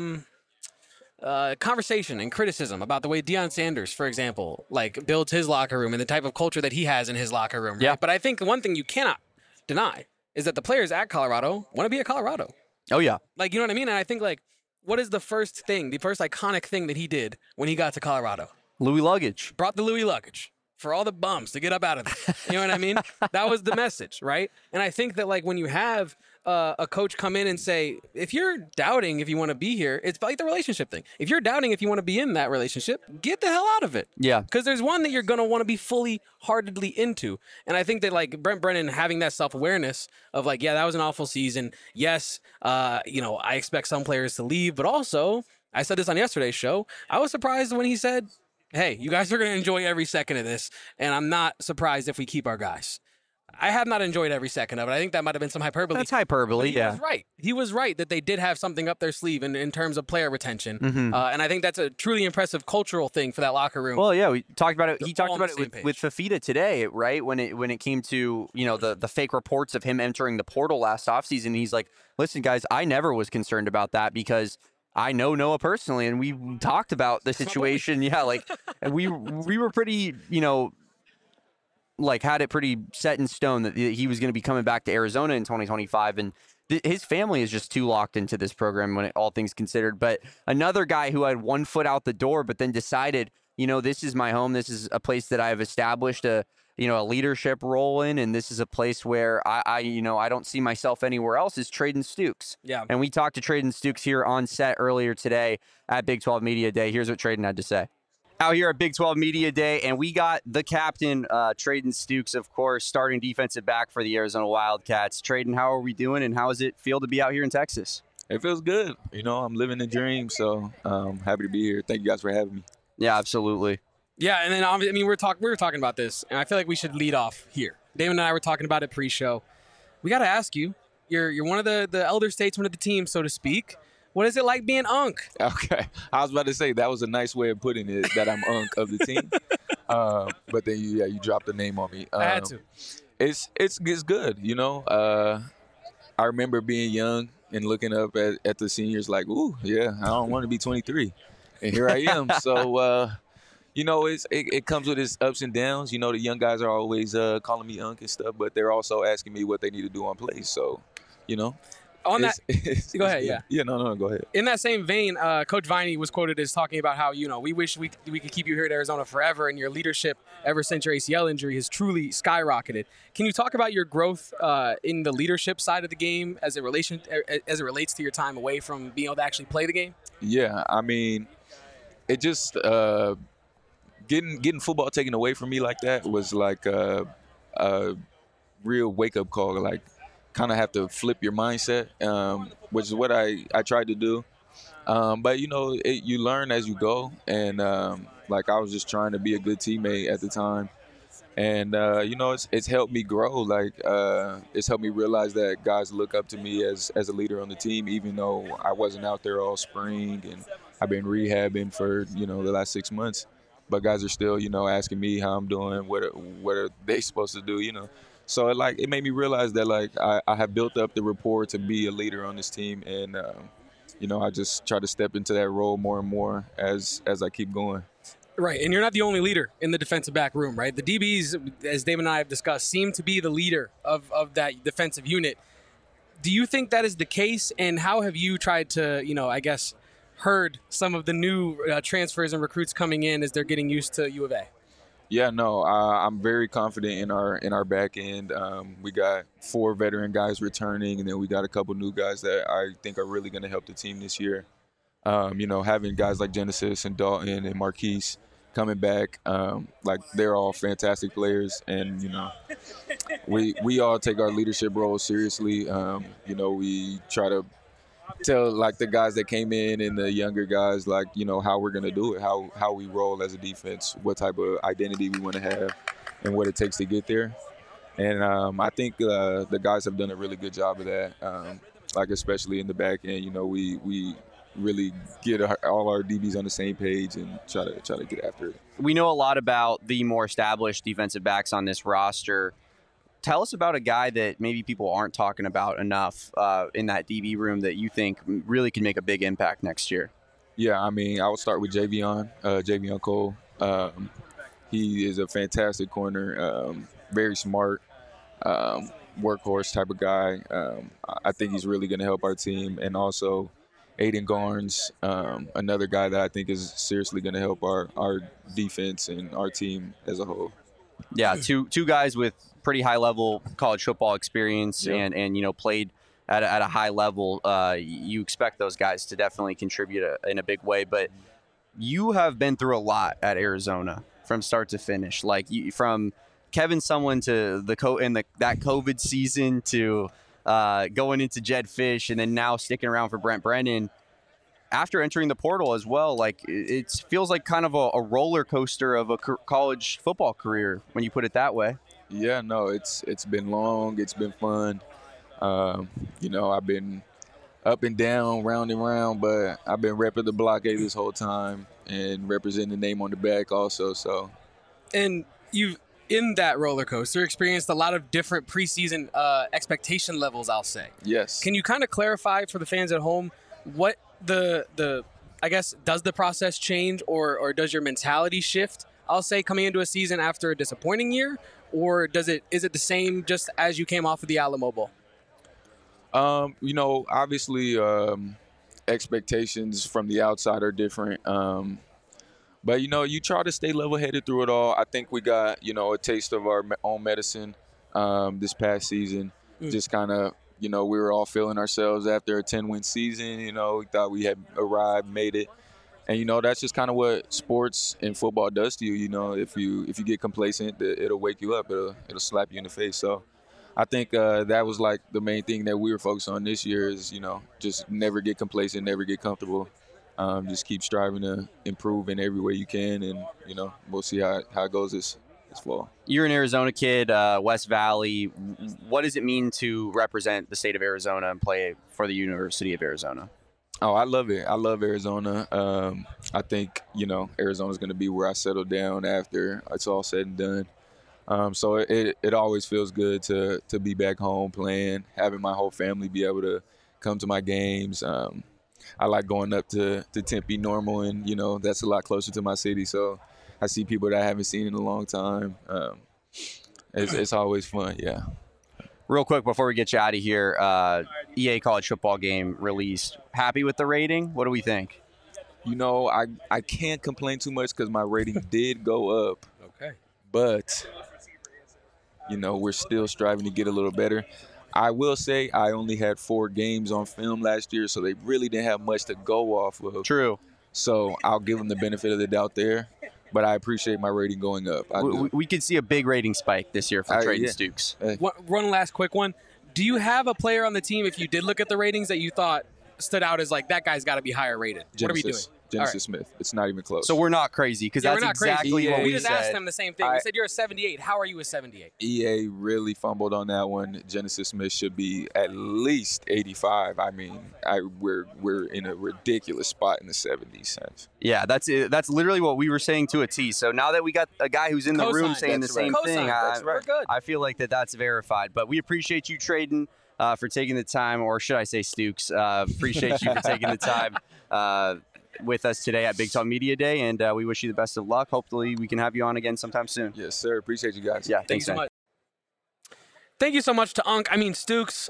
conversation and criticism about the way Deion Sanders, for example, like builds his locker room and the type of culture that he has in his locker room. Right? Yeah. But I think one thing you cannot deny is that the players at Colorado want to be at Colorado. Oh, yeah. Like, you know what I mean? And I think, like, what is the first iconic thing that he did when he got to Colorado? Louis luggage. Brought the Louis luggage for all the bums to get up out of there. You know what I mean? That was the message, right? And I think that, like, when you have a coach come in and say, if you're doubting if you want to be here, it's like the relationship thing. If you're doubting if you want to be in that relationship, get the hell out of it. Yeah. Because there's one that you're going to want to be fully heartedly into. And I think that, like, Brent Brennan having that self-awareness of, like, yeah, that was an awful season. Yes, I expect some players to leave, but also, I said this on yesterday's show, I was surprised when he said, hey, you guys are going to enjoy every second of this, and I'm not surprised if we keep our guys. I have not enjoyed every second of it. I think that might have been some hyperbole. That's hyperbole, He was right. He was right that they did have something up their sleeve in terms of player retention. Mm-hmm. And I think that's a truly impressive cultural thing for that locker room. Well, yeah, we talked about it. He talked about it with Fafita today, right? When it came to, the fake reports of him entering the portal last offseason. He's like, listen, guys, I never was concerned about that because I know Noah personally, and we talked about the situation. Yeah, like, and we were pretty, like, had it pretty set in stone that he was going to be coming back to Arizona in 2025, and his family is just too locked into this program when all things considered. But another guy who had one foot out the door, but then decided, this is my home. This is a place that I've established a leadership role in, and this is a place where I don't see myself anywhere else, is Trayden Stukes. Yeah. And we talked to Trayden Stukes here on set earlier today at Big 12 Media Day. Here's what Trayden had to say. Out here at Big 12 Media Day, and we got the captain, Trayden Stukes, of course, starting defensive back for the Arizona Wildcats. Trayden, how are we doing, and how does it feel to be out here in Texas? It feels good. I'm living the dream, so I'm happy to be here. Thank you guys for having me. Yeah, absolutely. Yeah, and then we were talking about this, and I feel like we should lead off here. Damon and I were talking about it pre-show. We got to ask you. You're one of the elder statesmen of the team, so to speak. What is it like being Unk? Okay, I was about to say that was a nice way of putting it, that I'm Unk of the team. But then you dropped the name on me. I had to. It's good. I remember being young and looking up at the seniors like, ooh, yeah, I don't want to be 23, and here I am. So. It comes with its ups and downs. The young guys are always calling me Unk and stuff, but they're also asking me what they need to do on plays. So, On that, go ahead. Yeah. Yeah. No. Go ahead. In that same vein, Coach Viney was quoted as talking about how we wish we could keep you here at Arizona forever, and your leadership ever since your ACL injury has truly skyrocketed. Can you talk about your growth in the leadership side of the game as it relates to your time away from being able to actually play the game? Yeah, I mean, it just getting football taken away from me like that was like a real wake up call. Like, kind of have to flip your mindset, which is what I tried to do. But you learn as you go, and like I was just trying to be a good teammate at the time, and it's helped me grow. Like it's helped me realize that guys look up to me as a leader on the team, even though I wasn't out there all spring and I've been rehabbing for the last 6 months. But guys are still asking me how I'm doing, what are they supposed to do, So it made me realize that like I have built up the rapport to be a leader on this team, and I just try to step into that role more and more as I keep going. Right, and you're not the only leader in the defensive back room, right? The DBs, as Damon and I have discussed, seem to be the leader of that defensive unit. Do you think that is the case, and how have you tried to, I guess, herd some of the new transfers and recruits coming in as they're getting used to U of A? Yeah, no, I'm very confident in our back end. We got 4 veteran guys returning, and then we got a couple new guys that I think are really going to help the team this year. Having guys like Genesis and Dalton and Marquise coming back, like they're all fantastic players, and we all take our leadership role seriously. We try to tell like the guys that came in and the younger guys like how we're gonna do it, how we roll as a defense, what type of identity we want to have, and what it takes to get there. And I think the guys have done a really good job of that. Like especially in the back end, we really get all our DBs on the same page and try to get after it. We know a lot about the more established defensive backs on this roster. Tell us about a guy that maybe people aren't talking about enough in that DB room that you think really can make a big impact next year. Yeah, I mean, I would start with Javion Cole. He is a fantastic corner, very smart, workhorse type of guy. I think he's really going to help our team. And also Aiden Garnes, another guy that I think is seriously going to help our defense and our team as a whole. Yeah, two guys with pretty high level college football experience, and played at a high level. You expect those guys to definitely contribute in a big way, but you have been through a lot at Arizona from start to finish. Like from Kevin Sumlin to that COVID season to going into Jedd Fisch, and then now sticking around for Brent Brennan. After entering the portal as well, like it feels like kind of a roller coaster of a college football career when you put it that way. Yeah, no, it's been long. It's been fun. I've been up and down, round and round, but I've been repping the blockade this whole time and representing the name on the back also. So, and you've in that roller coaster experienced a lot of different preseason expectation levels, I'll say. Yes. Can you kind of clarify for the fans at home what the I guess, does the process change or does your mentality shift, I'll say, coming into a season after a disappointing year? Or is it the same just as you came off of the Alamo Bowl? Obviously expectations from the outside are different. But, you try to stay level-headed through it all. I think we got, a taste of our own medicine this past season. Just kind of, we were all feeling ourselves after a 10-win season. We thought we had arrived, made it. And, that's just kind of what sports and football does to you. If you get complacent, it'll wake you up. It'll slap you in the face. So I think that was like the main thing that we were focused on this year is, just never get complacent, never get comfortable. Just keep striving to improve in every way you can. And, we'll see how it goes this fall. You're an Arizona kid, West Valley. What does it mean to represent the state of Arizona and play for the University of Arizona? Oh, I love it. I love Arizona. I think, Arizona's going to be where I settle down after it's all said and done. So it always feels good to be back home playing, having my whole family be able to come to my games. I like going up to Tempe Normal, and, that's a lot closer to my city. So I see people that I haven't seen in a long time. It's always fun, yeah. Real quick before we get you out of here, EA College Football Game released. Happy with the rating? What do we think? I can't complain too much because my rating did go up. Okay. But, we're still striving to get a little better. I will say I only had 4 games on film last year, so they really didn't have much to go off of. True. So I'll give them the benefit of the doubt there. But I appreciate my rating going up. We could see a big rating spike this year for Trayden Stukes. One last quick one. Do you have a player on the team, if you did look at the ratings, that you thought stood out as like, that guy's got to be higher rated? Genesis, What are we doing? Genesis Smith. It's not even close. So we're not crazy because Yeah, that's we're not exactly crazy. what We we just said. asked him the same thing. We said you're a 78. How are you a 78? EA really fumbled on that one. Genesis Smith should be at least 85. I mean, we're in a ridiculous spot in the 70s sense. Yeah, that's it. That's literally what we were saying to a T. So now that we got a guy who's in the room Cosign. saying the That's same right. thing, Cosign. We're good. I feel like that's verified. But we appreciate you, Traden, for taking the time, or should I say Stukes? Appreciate you for taking the time with us today at Big 12 Media Day, and we wish you the best of luck. Hopefully we can have you on again sometime soon. Yes, sir. Appreciate you guys. Yeah, Thank thanks you so man. much. Thank you so much to Stukes.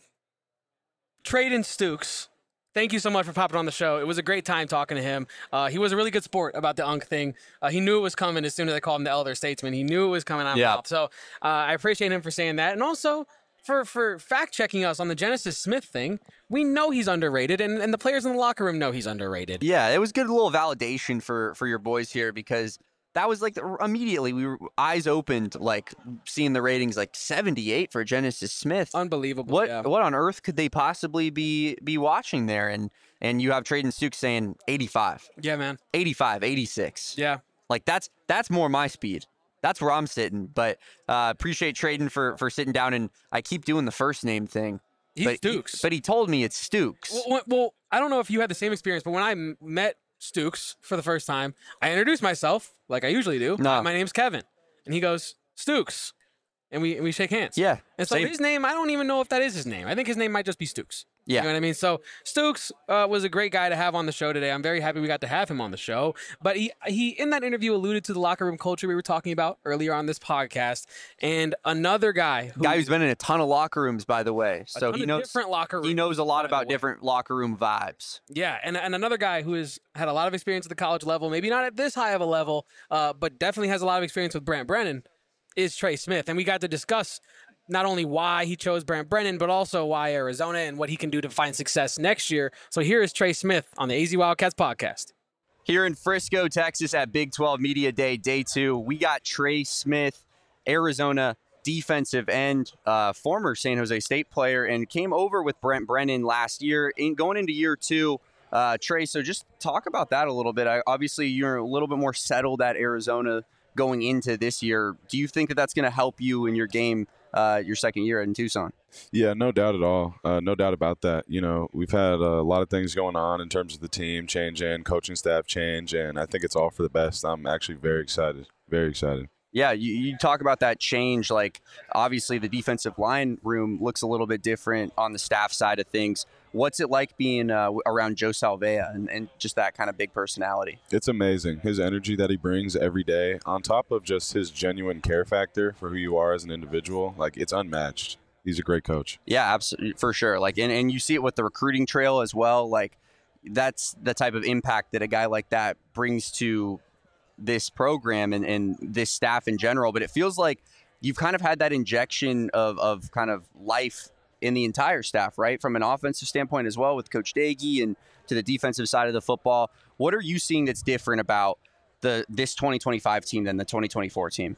Traden Stukes. Thank you so much for popping on the show. It was a great time talking to him. He was a really good sport about the thing. He knew it was coming as soon as I called him the elder statesman. He knew it was coming out of mouth. So I appreciate him for saying that. And also for fact-checking us on the Genesis Smith thing. We know he's underrated, and the players in the locker room know he's underrated. Yeah, it was good little validation for your boys here because that was like immediately we were eyes opened, like seeing the ratings like 78 for Genesis Smith. Unbelievable. What yeah. on earth could they possibly be watching there? And you have Traden Stukes saying 85, Yeah, man. 85, 86. Yeah. Like that's more my speed. That's where I'm sitting. But appreciate Traden for sitting down, and I keep doing the first name thing. He's Stukes. But he told me it's Stukes. Well, I don't know if you had the same experience, but when I met Stukes for the first time, I introduced myself like I usually do. No. My name's Kevin. And he goes, Stukes. And we shake hands. Yeah. And so same. his name, I don't even know if that is his name. I think his name might just be Stukes. Yeah. You know what I mean? So Stukes was a great guy to have on the show today. I'm very happy we got to have him on the show. But he in that interview alluded to the locker room culture we were talking about earlier on this podcast. And another guy who's been in a ton of locker rooms, by the way. So he knows different locker rooms. He knows a lot about different locker room vibes. Yeah, and another guy who has had a lot of experience at the college level, maybe not at this high of a level, but definitely has a lot of experience with Brant Brennan, is Trey Smith. And we got to discuss not only why he chose Brant Brennan, but also why Arizona and what he can do to find success next year. So here is Trey Smith on the AZ Wildcats podcast. Here in Frisco, Texas at Big 12 Media Day, Day 2, we got Trey Smith, Arizona defensive end, former San Jose State player, and came over with Brant Brennan last year. Going into year 2, Trey, so just talk about that a little bit. Obviously, you're a little bit more settled at Arizona going into this year. Do you think that that's going to help you in your game your second year in Tucson? Yeah, no doubt at all. No doubt about that. You know, we've had a lot of things going on in terms of the team changing, coaching staff change, and I think it's all for the best. I'm actually very excited. Very excited. Yeah, you talk about that change. Like, obviously, the defensive line room looks a little bit different on the staff side of things. What's it like being around Joe Salvea and just that kind of big personality? It's amazing. His energy that he brings every day, on top of just his genuine care factor for who you are as an individual, like, it's unmatched. He's a great coach. Yeah, absolutely, for sure. Like, and you see it with the recruiting trail as well. Like, that's the type of impact that a guy like that brings to this program and this staff in general. But it feels like you've kind of had that injection of kind of life in the entire staff, right? From an offensive standpoint as well with Coach Dagey and to the defensive side of the football. What are you seeing that's different about this 2025 team than the 2024 team?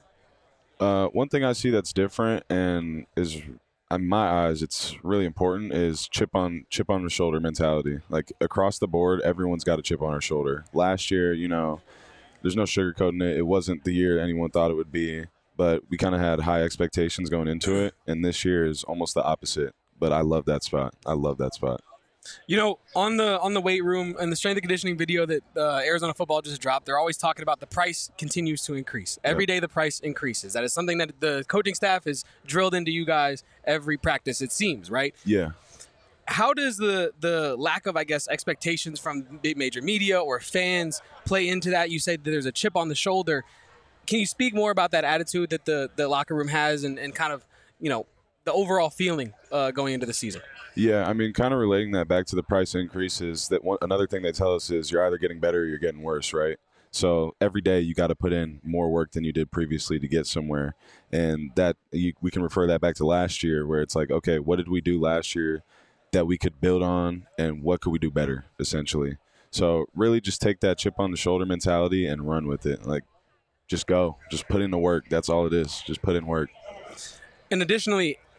One thing I see that's different and is, in my eyes, it's really important, is chip on the shoulder mentality. Like, across the board, everyone's got a chip on our shoulder. Last year, you know, there's no sugarcoating it. It wasn't the year anyone thought it would be, but we kind of had high expectations going into it, and this year is almost the opposite. But I love that spot. I love that spot. You know, on the weight room and the strength and conditioning video that Arizona football just dropped, they're always talking about the price continues to increase. Every day the price increases. That is something that the coaching staff is drilled into you guys every practice, it seems, right? Yeah. How does the lack of, I guess, expectations from big major media or fans play into that? You said that there's a chip on the shoulder. Can you speak more about that attitude that the locker room has and kind of, you know, the overall feeling going into the season? Yeah, I mean, kind of relating that back to the price increases, another thing they tell us is you're either getting better or you're getting worse, right? So every day you got to put in more work than you did previously to get somewhere. And that we can refer that back to last year where it's like, okay, what did we do last year that we could build on and what could we do better, essentially? So really just take that chip on the shoulder mentality and run with it. Like, just go. Just put in the work. That's all it is. Just put in work. And additionally,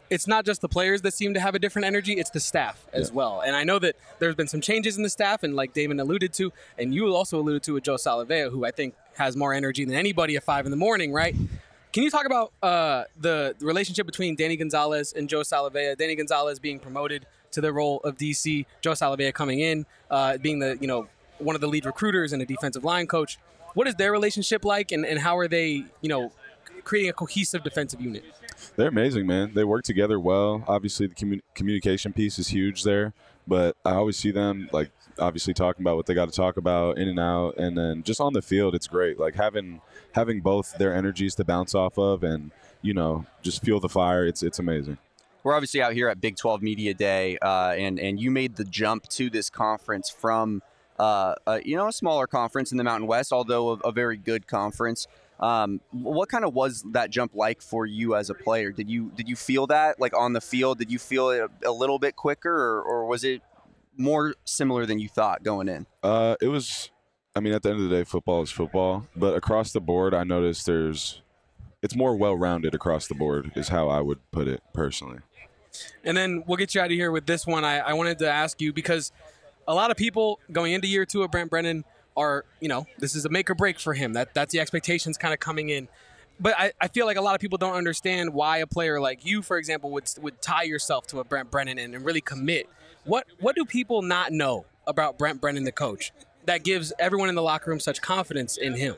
it's not just the players that seem to have a different energy, it's the staff as well. And I know that there's been some changes in the staff, and like Damon alluded to, and you also alluded to with Joe Salavea, who I think has more energy than anybody at 5 a.m, right? Can you talk about the relationship between Danny Gonzalez and Joe Salavea? Danny Gonzalez being promoted to the role of DC, Joe Salavea coming in, being the one of the lead recruiters and a defensive line coach. What is their relationship like, and how are they creating a cohesive defensive unit? They're amazing, man. They work together well. Obviously, the communication piece is huge there, but I always see them obviously talking about what they got to talk about in and out, and then just on the field, it's great. Like having both their energies to bounce off of, and just feel the fire. It's amazing. We're obviously out here at Big 12 Media Day, and you made the jump to this conference from a smaller conference in the Mountain West, although a very good conference. What kind of was that jump like for you as a player? Did you feel that on the field? Did you feel it a little bit quicker, or was it more similar than you thought going in? It was. I mean, at the end of the day, football is football. But across the board, I noticed it's more well-rounded across the board is how I would put it personally. And then we'll get you out of here with this one. I wanted to ask you, because a lot of people going into year 2 of Brent Brennan are, this is a make or break for him. That's the expectations kind of coming in. But I feel like a lot of people don't understand why a player like you, for example, would tie yourself to a Brent Brennan and really commit. What do people not know about Brent Brennan, the coach, that gives everyone in the locker room such confidence in him?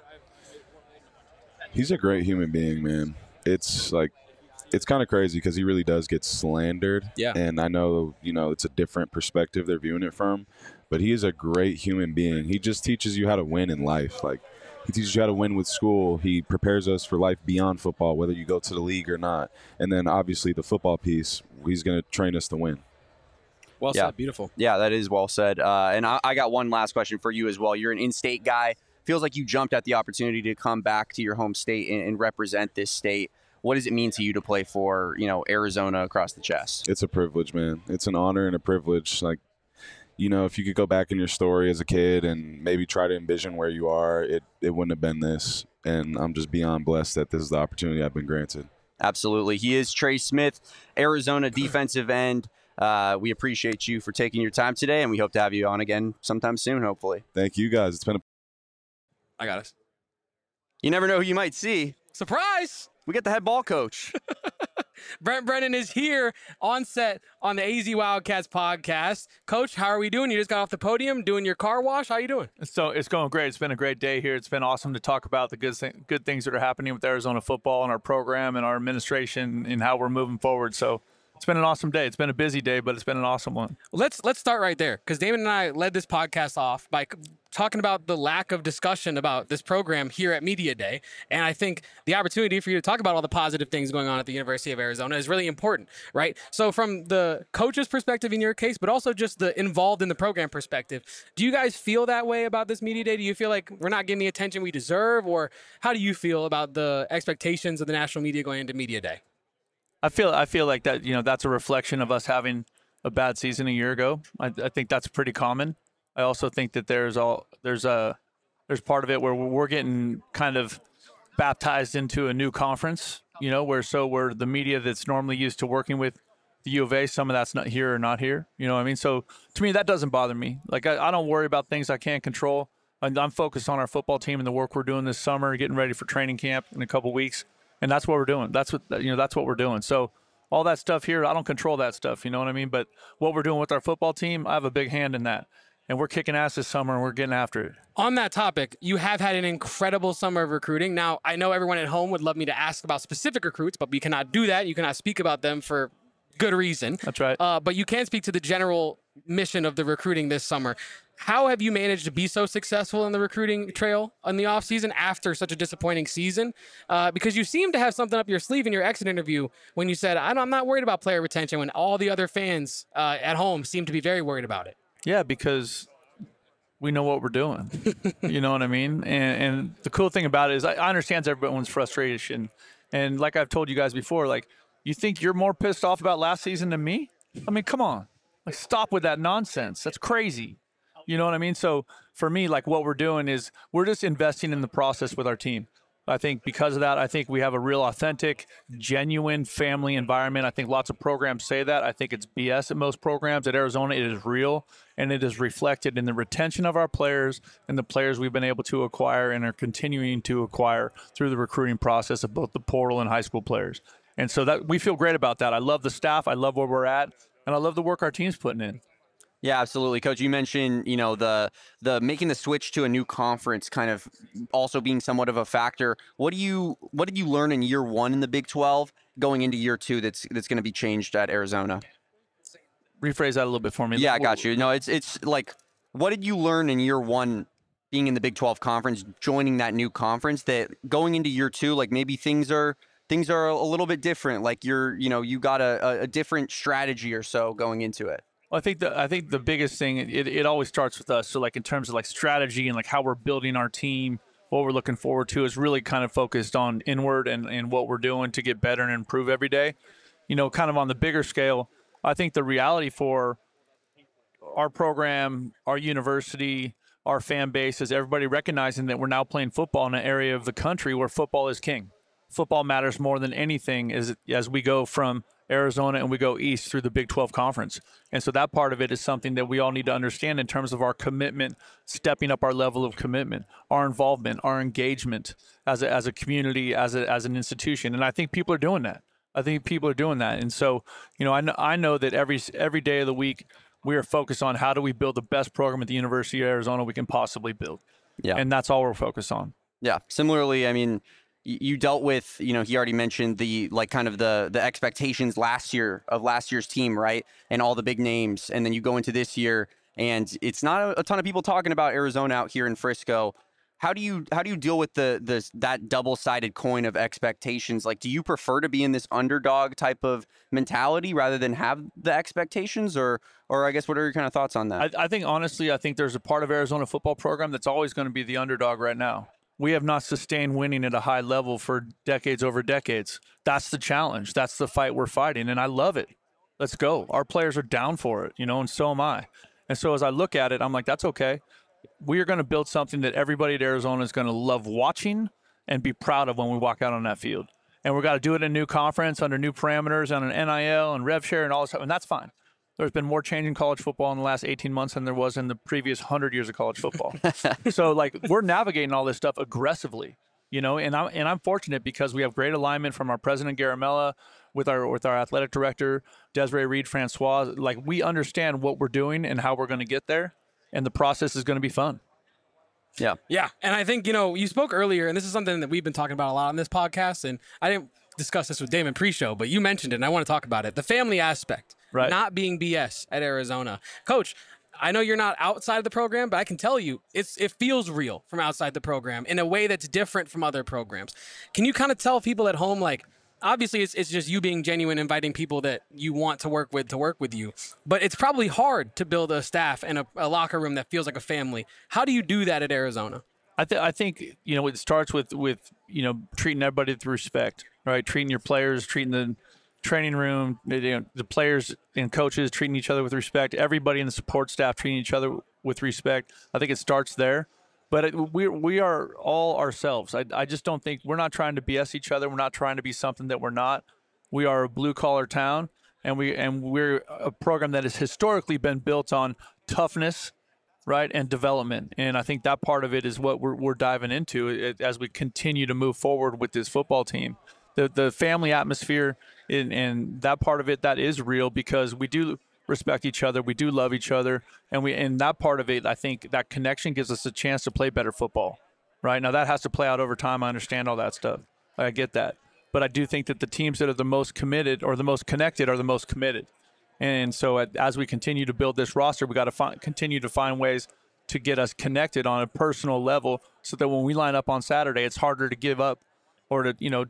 He's a great human being, man. It's kind of crazy because he really does get slandered. Yeah. And I know, it's a different perspective they're viewing it from, but he is a great human being. He just teaches you how to win in life. He teaches you how to win with school. He prepares us for life beyond football, whether you go to the league or not. And then obviously the football piece, he's going to train us to win. Well said. Beautiful. Yeah, that is well said. And I got one last question for you as well. You're an in-state guy. Feels like you jumped at the opportunity to come back to your home state and represent this state. What does it mean to you to play for, Arizona across the chest? It's a privilege, man. It's an honor and a privilege. If you could go back in your story as a kid and maybe try to envision where you are, it wouldn't have been this. And I'm just beyond blessed that this is the opportunity I've been granted. Absolutely. He is Trey Smith, Arizona defensive end. We appreciate you for taking your time today, and we hope to have you on again sometime soon, hopefully. Thank you, guys. It's been I got us. You never know who you might see. Surprise! We get the head ball coach. Brent Brennan is here on set on the AZ Wildcats podcast. Coach, how are we doing? You just got off the podium doing your car wash. How are you doing? So it's going great. It's been a great day here. It's been awesome to talk about the good things that are happening with Arizona football and our program and our administration and how we're moving forward. So it's been an awesome day. It's been a busy day, but it's been an awesome one. Let's start right there, because Damon and I led this podcast off by talking about the lack of discussion about this program here at Media Day. And I think the opportunity for you to talk about all the positive things going on at the University of Arizona is really important, right? So from the coach's perspective in your case, but also just the involved in the program perspective, do you guys feel that way about this Media Day? Do you feel like we're not getting the attention we deserve? Or how do you feel about the expectations of the national media going into Media Day? I feel like that, that's a reflection of us having a bad season a year ago. I think that's pretty common. I also think that there's part of it where we're getting kind of baptized into a new conference, where we're the media that's normally used to working with the U of A. Some of that's not here or not here. You know what I mean? So to me, that doesn't bother me. I don't worry about things I can't control. I'm focused on our football team and the work we're doing this summer, getting ready for training camp in a couple weeks. And that's what we're doing. That's what we're doing. So all that stuff here, I don't control that stuff. You know what I mean? But what we're doing with our football team, I have a big hand in that. And we're kicking ass this summer, and we're getting after it. On that topic, you have had an incredible summer of recruiting. Now, I know everyone at home would love me to ask about specific recruits, but we cannot do that. You cannot speak about them for good reason. That's right. But you can speak to the general mission of the recruiting this summer. How have you managed to be so successful in the recruiting trail in the offseason after such a disappointing season? Because you seem to have something up your sleeve in your exit interview when you said, I'm not worried about player retention, when all the other fans at home seem to be very worried about it. Yeah, because we know what we're doing. You know what I mean? And the cool thing about it is I understand everyone's frustration. And like I've told you guys before, you think you're more pissed off about last season than me? I mean, come on. Stop with that nonsense. That's crazy. You know what I mean? So for me, what we're doing is we're just investing in the process with our team. I think because of that, I think we have a real authentic, genuine family environment. I think lots of programs say that. I think it's BS at most programs. At Arizona, it is real, and it is reflected in the retention of our players and the players we've been able to acquire and are continuing to acquire through the recruiting process of both the portal and high school players. And so that we feel great about that. I love the staff. I love where we're at, and I love the work our team's putting in. Yeah, absolutely, Coach. You mentioned, the making the switch to a new conference kind of also being somewhat of a factor. What did you learn in year one in the Big 12 going into year two that's going to be changed at Arizona? Rephrase that a little bit for me. Yeah, I got you. No, it's like, what did you learn in year one being in the Big 12 conference, joining that new conference, that going into year two, like maybe things are a little bit different, like you got a different strategy or so going into it? Well, I think the biggest thing, it always starts with us. So like in terms of like strategy and like how we're building our team, what we're looking forward to is really kind of focused on inward and what we're doing to get better and improve every day. Kind of on the bigger scale, I think the reality for our program, our university, our fan base is everybody recognizing that we're now playing football in an area of the country where football is king. Football matters more than anything as we go from Arizona and we go east through the Big 12 conference. And so that part of it is something that we all need to understand in terms of our commitment, stepping up our level of commitment, our involvement, our engagement as a community, as an institution. And I think people are doing that. And so, I know that every day of the week we are focused on how do we build the best program at the University of Arizona we can possibly build. Yeah. And that's all we're focused on. Yeah. Similarly, I mean, you dealt with, he already mentioned the expectations last year's team, right? And all the big names. And then you go into this year and it's not a ton of people talking about Arizona out here in Frisco. How do you deal with that double-sided coin of expectations? Like, do you prefer to be in this underdog type of mentality rather than have the expectations, or I guess what are your kind of thoughts on that? I think honestly, I think there's a part of Arizona football program that's always going to be the underdog right now. We have not sustained winning at a high level for decades over decades. That's the challenge. That's the fight we're fighting, and I love it. Let's go. Our players are down for it, and so am I. And so as I look at it, I'm like, that's okay. We are going to build something that everybody at Arizona is going to love watching and be proud of when we walk out on that field. And we've got to do it in a new conference under new parameters on an NIL and rev share and all this stuff, and that's fine. There's been more change in college football in the last 18 months than there was in the previous 100 years of college football. So, we're navigating all this stuff aggressively, and I'm fortunate because we have great alignment from our president, Garamella, with our athletic director, Desiree Reed-Francois. We understand what we're doing and how we're going to get there, and the process is going to be fun. Yeah. Yeah, and I think, you spoke earlier, and this is something that we've been talking about a lot on this podcast, and I didn't discuss this with Damon pre-show, but you mentioned it, and I want to talk about it. The family aspect. Right. Not being BS at Arizona. Coach, I know you're not outside of the program, but I can tell you it feels real from outside the program in a way that's different from other programs. Can you kind of tell people at home, obviously it's just you being genuine, inviting people that you want to work with you, but it's probably hard to build a staff and a locker room that feels like a family. How do you do that at Arizona? I think, it starts with treating everybody with respect, right? Treating your players, treating the training room, the players and coaches treating each other with respect, everybody in the support staff treating each other with respect. I think it starts there, but we are all ourselves. I just don't think we're not trying to BS each other. We're not trying to be something that we're not. We are a blue collar town, and we're a program that has historically been built on toughness, right, and development. And I think that part of it is what we're diving into as we continue to move forward with this football team. The family atmosphere and that part of it, that is real because we do respect each other, we do love each other, and that part of it, I think that connection gives us a chance to play better football. Right now, that has to play out over time. I understand all that stuff. I get that, but I do think that the teams that are the most committed or the most connected are the most committed. And so, as we continue to build this roster, we got to continue to find ways to get us connected on a personal level, so that when we line up on Saturday, it's harder to give up or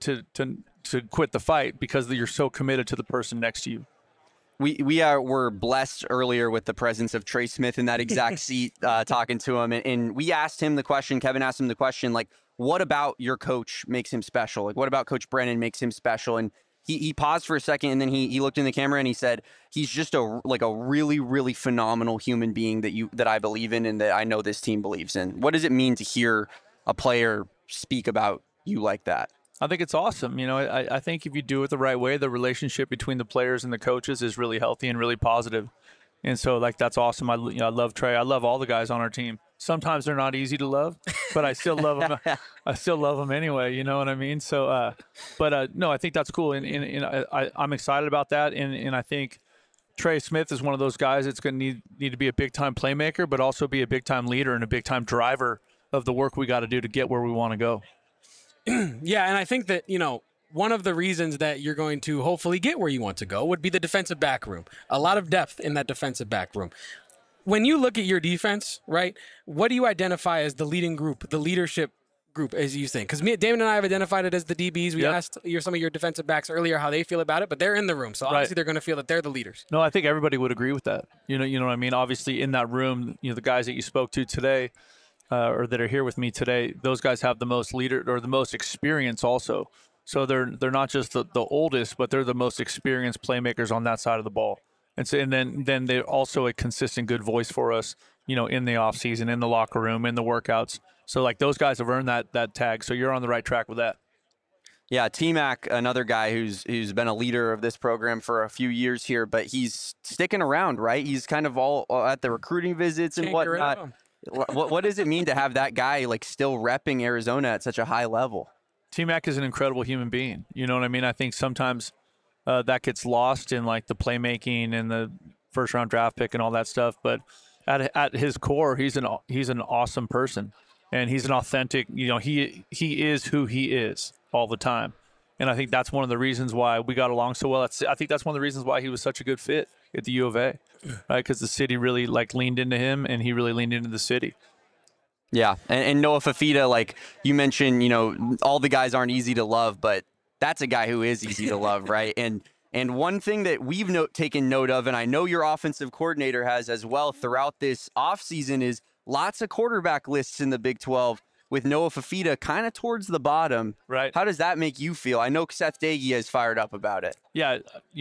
to quit the fight because you're so committed to the person next to you. Were blessed earlier with the presence of Trey Smith in that exact seat, talking to him, and we asked him the question. Kevin asked him the question, what about your coach makes him special? What about Coach Brennan makes him special? And he paused for a second, and then he looked in the camera and he said, he's just a really, really phenomenal human being that I believe in and that I know this team believes in. What does it mean to hear a player speak about you like that? I think it's awesome. You know, I think if you do it the right way, the relationship between the players and the coaches is really healthy and really positive. And so, like, that's awesome. I love Trey. I love all the guys on our team. Sometimes they're not easy to love, but I still love them. I still love them anyway. You know what I mean? So, no, I think that's cool. And I'm excited about that. And I think Trey Smith is one of those guys that's going to need to be a big-time playmaker, but also be a big-time leader and a big-time driver of the work we got to do to get where we want to go. Yeah, and I think that, one of the reasons that you're going to hopefully get where you want to go would be the defensive back room. A lot of depth in that defensive back room. When you look at your defense, right, what do you identify as the leading group, the leadership group, as you think? Because Damon and I have identified it as the DBs. We asked some of your defensive backs earlier how they feel about it, but they're in the room, so obviously they're going to feel that they're the leaders. No, I think everybody would agree with that. You know what I mean? Obviously, in that room, the guys that you spoke to today, or that are here with me today, those guys have the most leader or the most experience also. So they're not just the oldest, but they're the most experienced playmakers on that side of the ball. And so then they're also a consistent good voice for us, in the off season, in the locker room, in the workouts. So like those guys have earned that tag. So you're on the right track with that. Yeah, T-Mac, another guy who's been a leader of this program for a few years here, but he's sticking around, right? He's kind of all at the recruiting visits and whatnot. What does it mean to have that guy like still repping Arizona at such a high level? T-Mac is an incredible human being. You know what I mean? I think sometimes that gets lost in like the playmaking and the first round draft pick and all that stuff. But at his core, he's an awesome person, and he's an authentic. He is who he is all the time, and I think that's one of the reasons why we got along so well. I think that's one of the reasons why he was such a good fit at the U of A, right? Because the city really like leaned into him, and he really leaned into the city. Yeah, and Noah Fifita, like you mentioned, all the guys aren't easy to love, but that's a guy who is easy to love, right? And one thing that we've taken note of, and I know your offensive coordinator has as well throughout this offseason, is lots of quarterback lists in the Big 12 with Noah Fifita kind of towards the bottom. Right. How does that make you feel? I know Seth Doege is fired up about it. Yeah,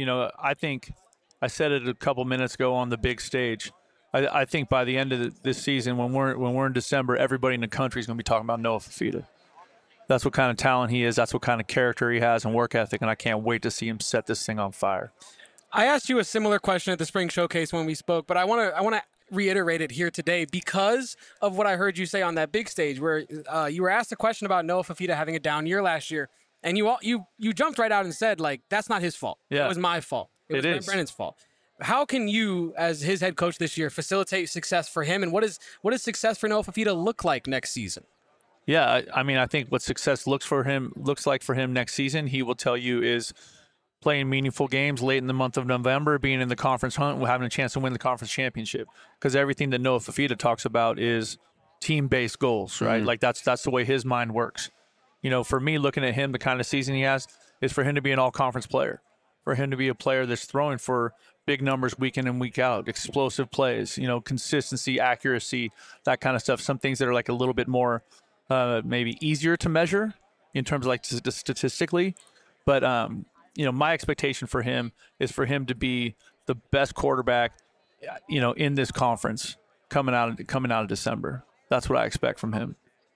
I think I said it a couple minutes ago on the big stage. I think by the end of this season, when we're in December, everybody in the country is going to be talking about Noah Fifita. That's what kind of talent he is. That's what kind of character he has and work ethic, and I can't wait to see him set this thing on fire. I asked you a similar question at the Spring Showcase when we spoke, but I want to reiterate it here today because of what I heard you say on that big stage where you were asked a question about Noah Fifita having a down year last year, and you jumped right out and said, like, that's not his fault. Yeah. It was my fault. It was Brennan's fault. How can you, as his head coach this year, facilitate success for him, and what does success for Noah Fifita look like next season? Yeah, I mean, I think what success looks like for him next season, he will tell you, is playing meaningful games late in the month of November, being in the conference hunt, having a chance to win the conference championship. Because everything that Noah Fifita talks about is team-based goals, right? Mm-hmm. Like that's the way his mind works. For me, looking at him, the kind of season he has is for him to be an all-conference player, for him to be a player that's throwing for big numbers week in and week out, explosive plays, consistency, accuracy, that kind of stuff. Some things that are like a little bit more maybe easier to measure in terms of like statistically. But, my expectation for him is for him to be the best quarterback, in this conference coming out of December. That's what I expect from him.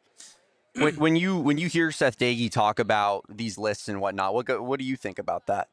When you hear Seth Doege talk about these lists and whatnot, what do you think about that?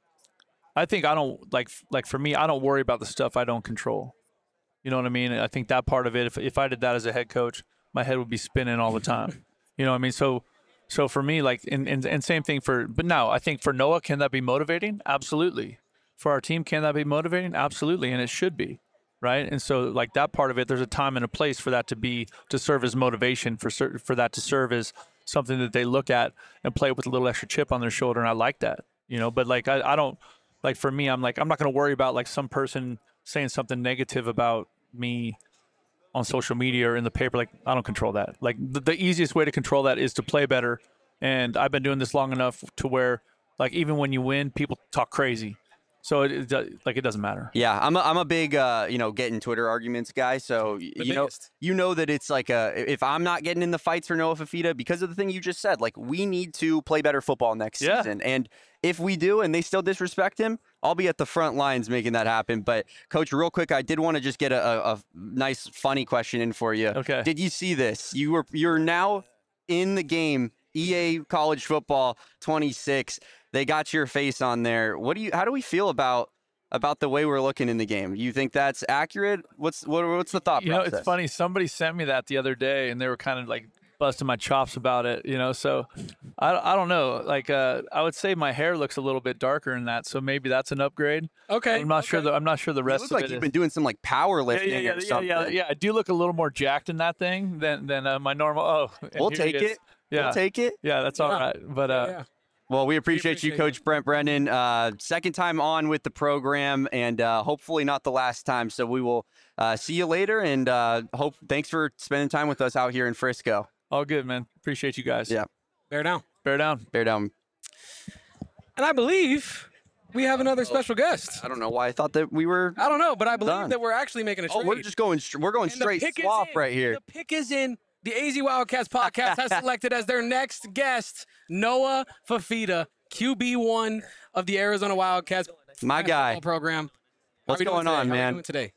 I think I don't like for me, I don't worry about the stuff I don't control. You know what I mean? I think that part of it, if I did that as a head coach, my head would be spinning all the time. You know what I mean? So for me, like, and same thing but now I think for Noah, can that be motivating? Absolutely. For our team, can that be motivating? Absolutely. And it should be, right? And so like that part of it, there's a time and a place for that to serve as motivation, for that to serve as something that they look at and play with a little extra chip on their shoulder. And I like that, but like, I don't, like for me, I'm not going to worry about like some person saying something negative about me on social media or in the paper. Like, I don't control that. Like the easiest way to control that is to play better. And I've been doing this long enough to where like, even when you win, people talk crazy. So it doesn't matter. Yeah, I'm a big getting Twitter arguments guy. So you know that it's like if I'm not getting in the fights for Noah Fifita because of the thing you just said, like we need to play better football next season. And if we do and they still disrespect him, I'll be at the front lines making that happen. But Coach, real quick, I did want to just get a nice funny question in for you. Okay. Did you see this? You're now in the game EA College Football 26. They got your face on there. How do we feel about the way we're looking in the game? You think that's accurate? What's the thought process? It's funny. Somebody sent me that the other day, and they were kind of like busting my chops about it. So I don't know. Like I would say my hair looks a little bit darker in that, so maybe that's an upgrade. Okay. I'm not sure. I'm not sure the rest look of like it you've is. been doing some like powerlifting or something. Yeah. I do look a little more jacked in that thing than my normal. Oh, we'll take it. Yeah. We'll take it. Yeah, that's all right. But Yeah. Well, we appreciate you, Coach Brent Brennan. Second time on with the program, and hopefully not the last time. So we will see you later, and thanks for spending time with us out here in Frisco. All good, man. Appreciate you guys. Yeah. Bear down. Bear down. And I believe we have another special guest. I don't know why I thought that we were. I don't know, but I believe done. that we're actually making a trade. Oh, we're just going. We're going And the straight pick is swap in. right here. The pick is in. The AZ Wildcats podcast has selected as their next guest Noah Fifita, QB1 of the Arizona Wildcats. My guy. Football program. What's going on, How are man? you doing today?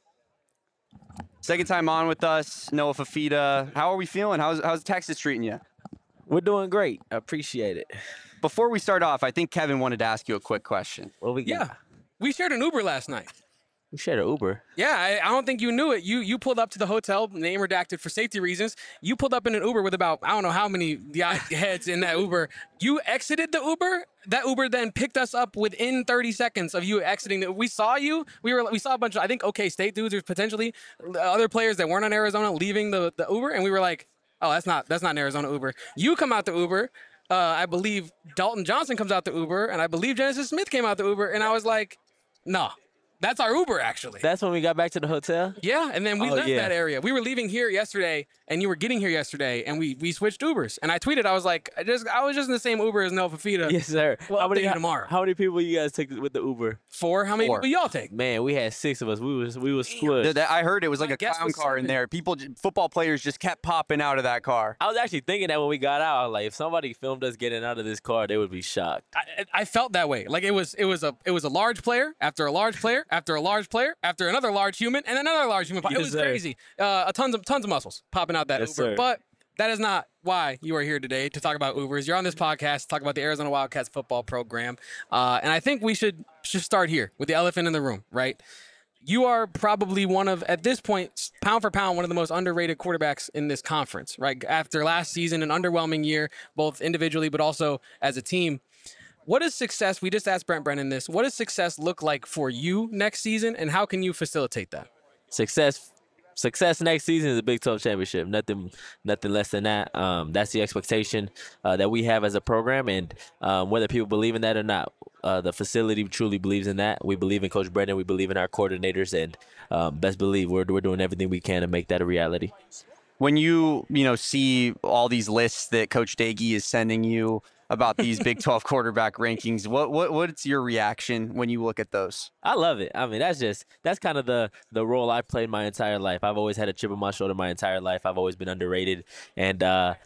Second time on with us, Noah Fifita. How are we feeling? How's Texas treating you? We're doing great. I appreciate it. Before we start off, I think Kevin wanted to ask you a quick question. What we got? Yeah. We shared an Uber last night. We shared an Uber. Yeah, I don't think you knew it. You pulled up to the hotel, name redacted for safety reasons. You pulled up in an Uber with about, I don't know how many heads in that Uber. You exited the Uber. That Uber then picked us up within 30 seconds of you exiting. We saw you. We saw a bunch of, I think, OK State dudes or potentially other players that weren't on Arizona leaving the Uber. And we were like, oh, that's not an Arizona Uber. You come out the Uber. I believe Dalton Johnson comes out the Uber. And I believe Genesis Smith came out the Uber. And I was like, no. That's our Uber, actually. That's when we got back to the hotel? Yeah, and then we left that area. We were leaving here yesterday, and you were getting here yesterday, and we switched Ubers. And I tweeted, I was like, I was just in the same Uber as Noah Fifita. Yes, sir. Well, tomorrow. How many people you guys took with the Uber? 4. How many people y'all take? Man, we had 6 of us. We was split. I heard it was like My a guess clown was car in 7. there. Football players just kept popping out of that car. I was actually thinking that when we got out, I was like, if somebody filmed us getting out of this car, they would be shocked. I felt that way. Like it was a large player after a large player after a large player after another large human and another large human. It was crazy. Tons of muscles popping out that Uber. Sir. But that is not why you are here today to talk about Ubers. You're on this podcast to talk about the Arizona Wildcats football program. And I think we should start here with the elephant in the room, right? You are probably one of, at this point, pound for pound, one of the most underrated quarterbacks in this conference, right? After last season, an underwhelming year, both individually but also as a team. What is success? We just asked Brent Brennan this. What does success look like for you next season, and how can you facilitate that? Success next season is a Big 12 championship. Nothing less than that. That's the expectation that we have as a program, and whether people believe in that or not, the facility truly believes in that. We believe in Coach Brennan. We believe in our coordinators, and best believe we're doing everything we can to make that a reality. When you see all these lists that Coach Daggy is sending you about these Big 12 quarterback rankings, what's your reaction when you look at those? I love it. I mean, that's kind of the role I played my entire life. I've always had a chip on my shoulder my entire life. I've always been underrated, and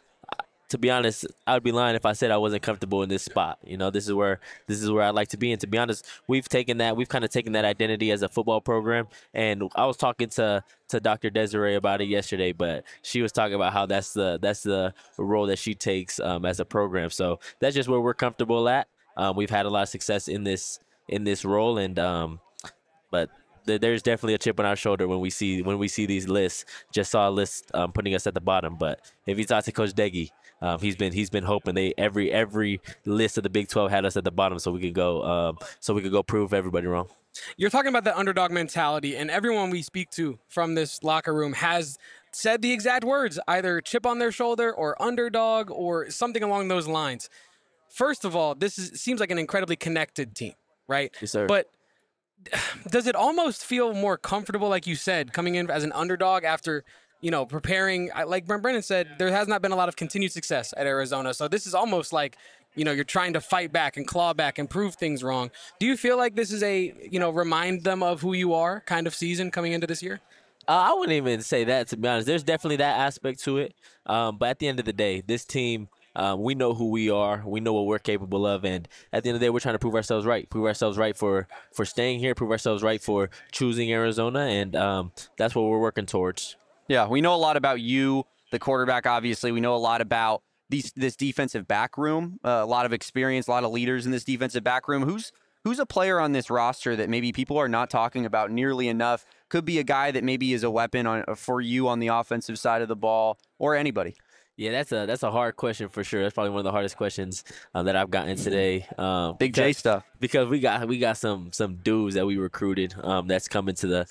to be honest, I would be lying if I said I wasn't comfortable in this spot. This is where I like to be. And to be honest, we've kind of taken that identity as a football program. And I was talking to Dr. Desiree about it yesterday, but she was talking about how that's the role that she takes as a program. So that's just where we're comfortable at. We've had a lot of success in this role, and but there's definitely a chip on our shoulder when we see these lists. Just saw a list putting us at the bottom, but if you talk to Coach Deggy, he's been hoping every list of the Big 12 had us at the bottom, so we could go prove everybody wrong. You're talking about the underdog mentality, and everyone we speak to from this locker room has said the exact words, either chip on their shoulder or underdog or something along those lines. First of all, seems like an incredibly connected team, right? Yes, sir. But does it almost feel more comfortable, like you said, coming in as an underdog after, preparing? Like Brent Brennan said, there has not been a lot of continued success at Arizona. So this is almost like, you're trying to fight back and claw back and prove things wrong. Do you feel like this is a, remind them of who you are kind of season coming into this year? I wouldn't even say that, to be honest. There's definitely that aspect to it. But at the end of the day, this team, we know who we are. We know what we're capable of. And at the end of the day, we're trying to prove ourselves right. Prove ourselves right for staying here. Prove ourselves right for choosing Arizona. And that's what we're working towards. Yeah, we know a lot about you, the quarterback, obviously. We know a lot about this defensive back room. A lot of experience, a lot of leaders in this defensive back room. Who's a player on this roster that maybe people are not talking about nearly enough? Could be a guy that maybe is a weapon for you on the offensive side of the ball, or anybody. Yeah, that's a hard question for sure. That's probably one of the hardest questions that I've gotten today. Big J stuff. Because we got some dudes that we recruited that's coming to.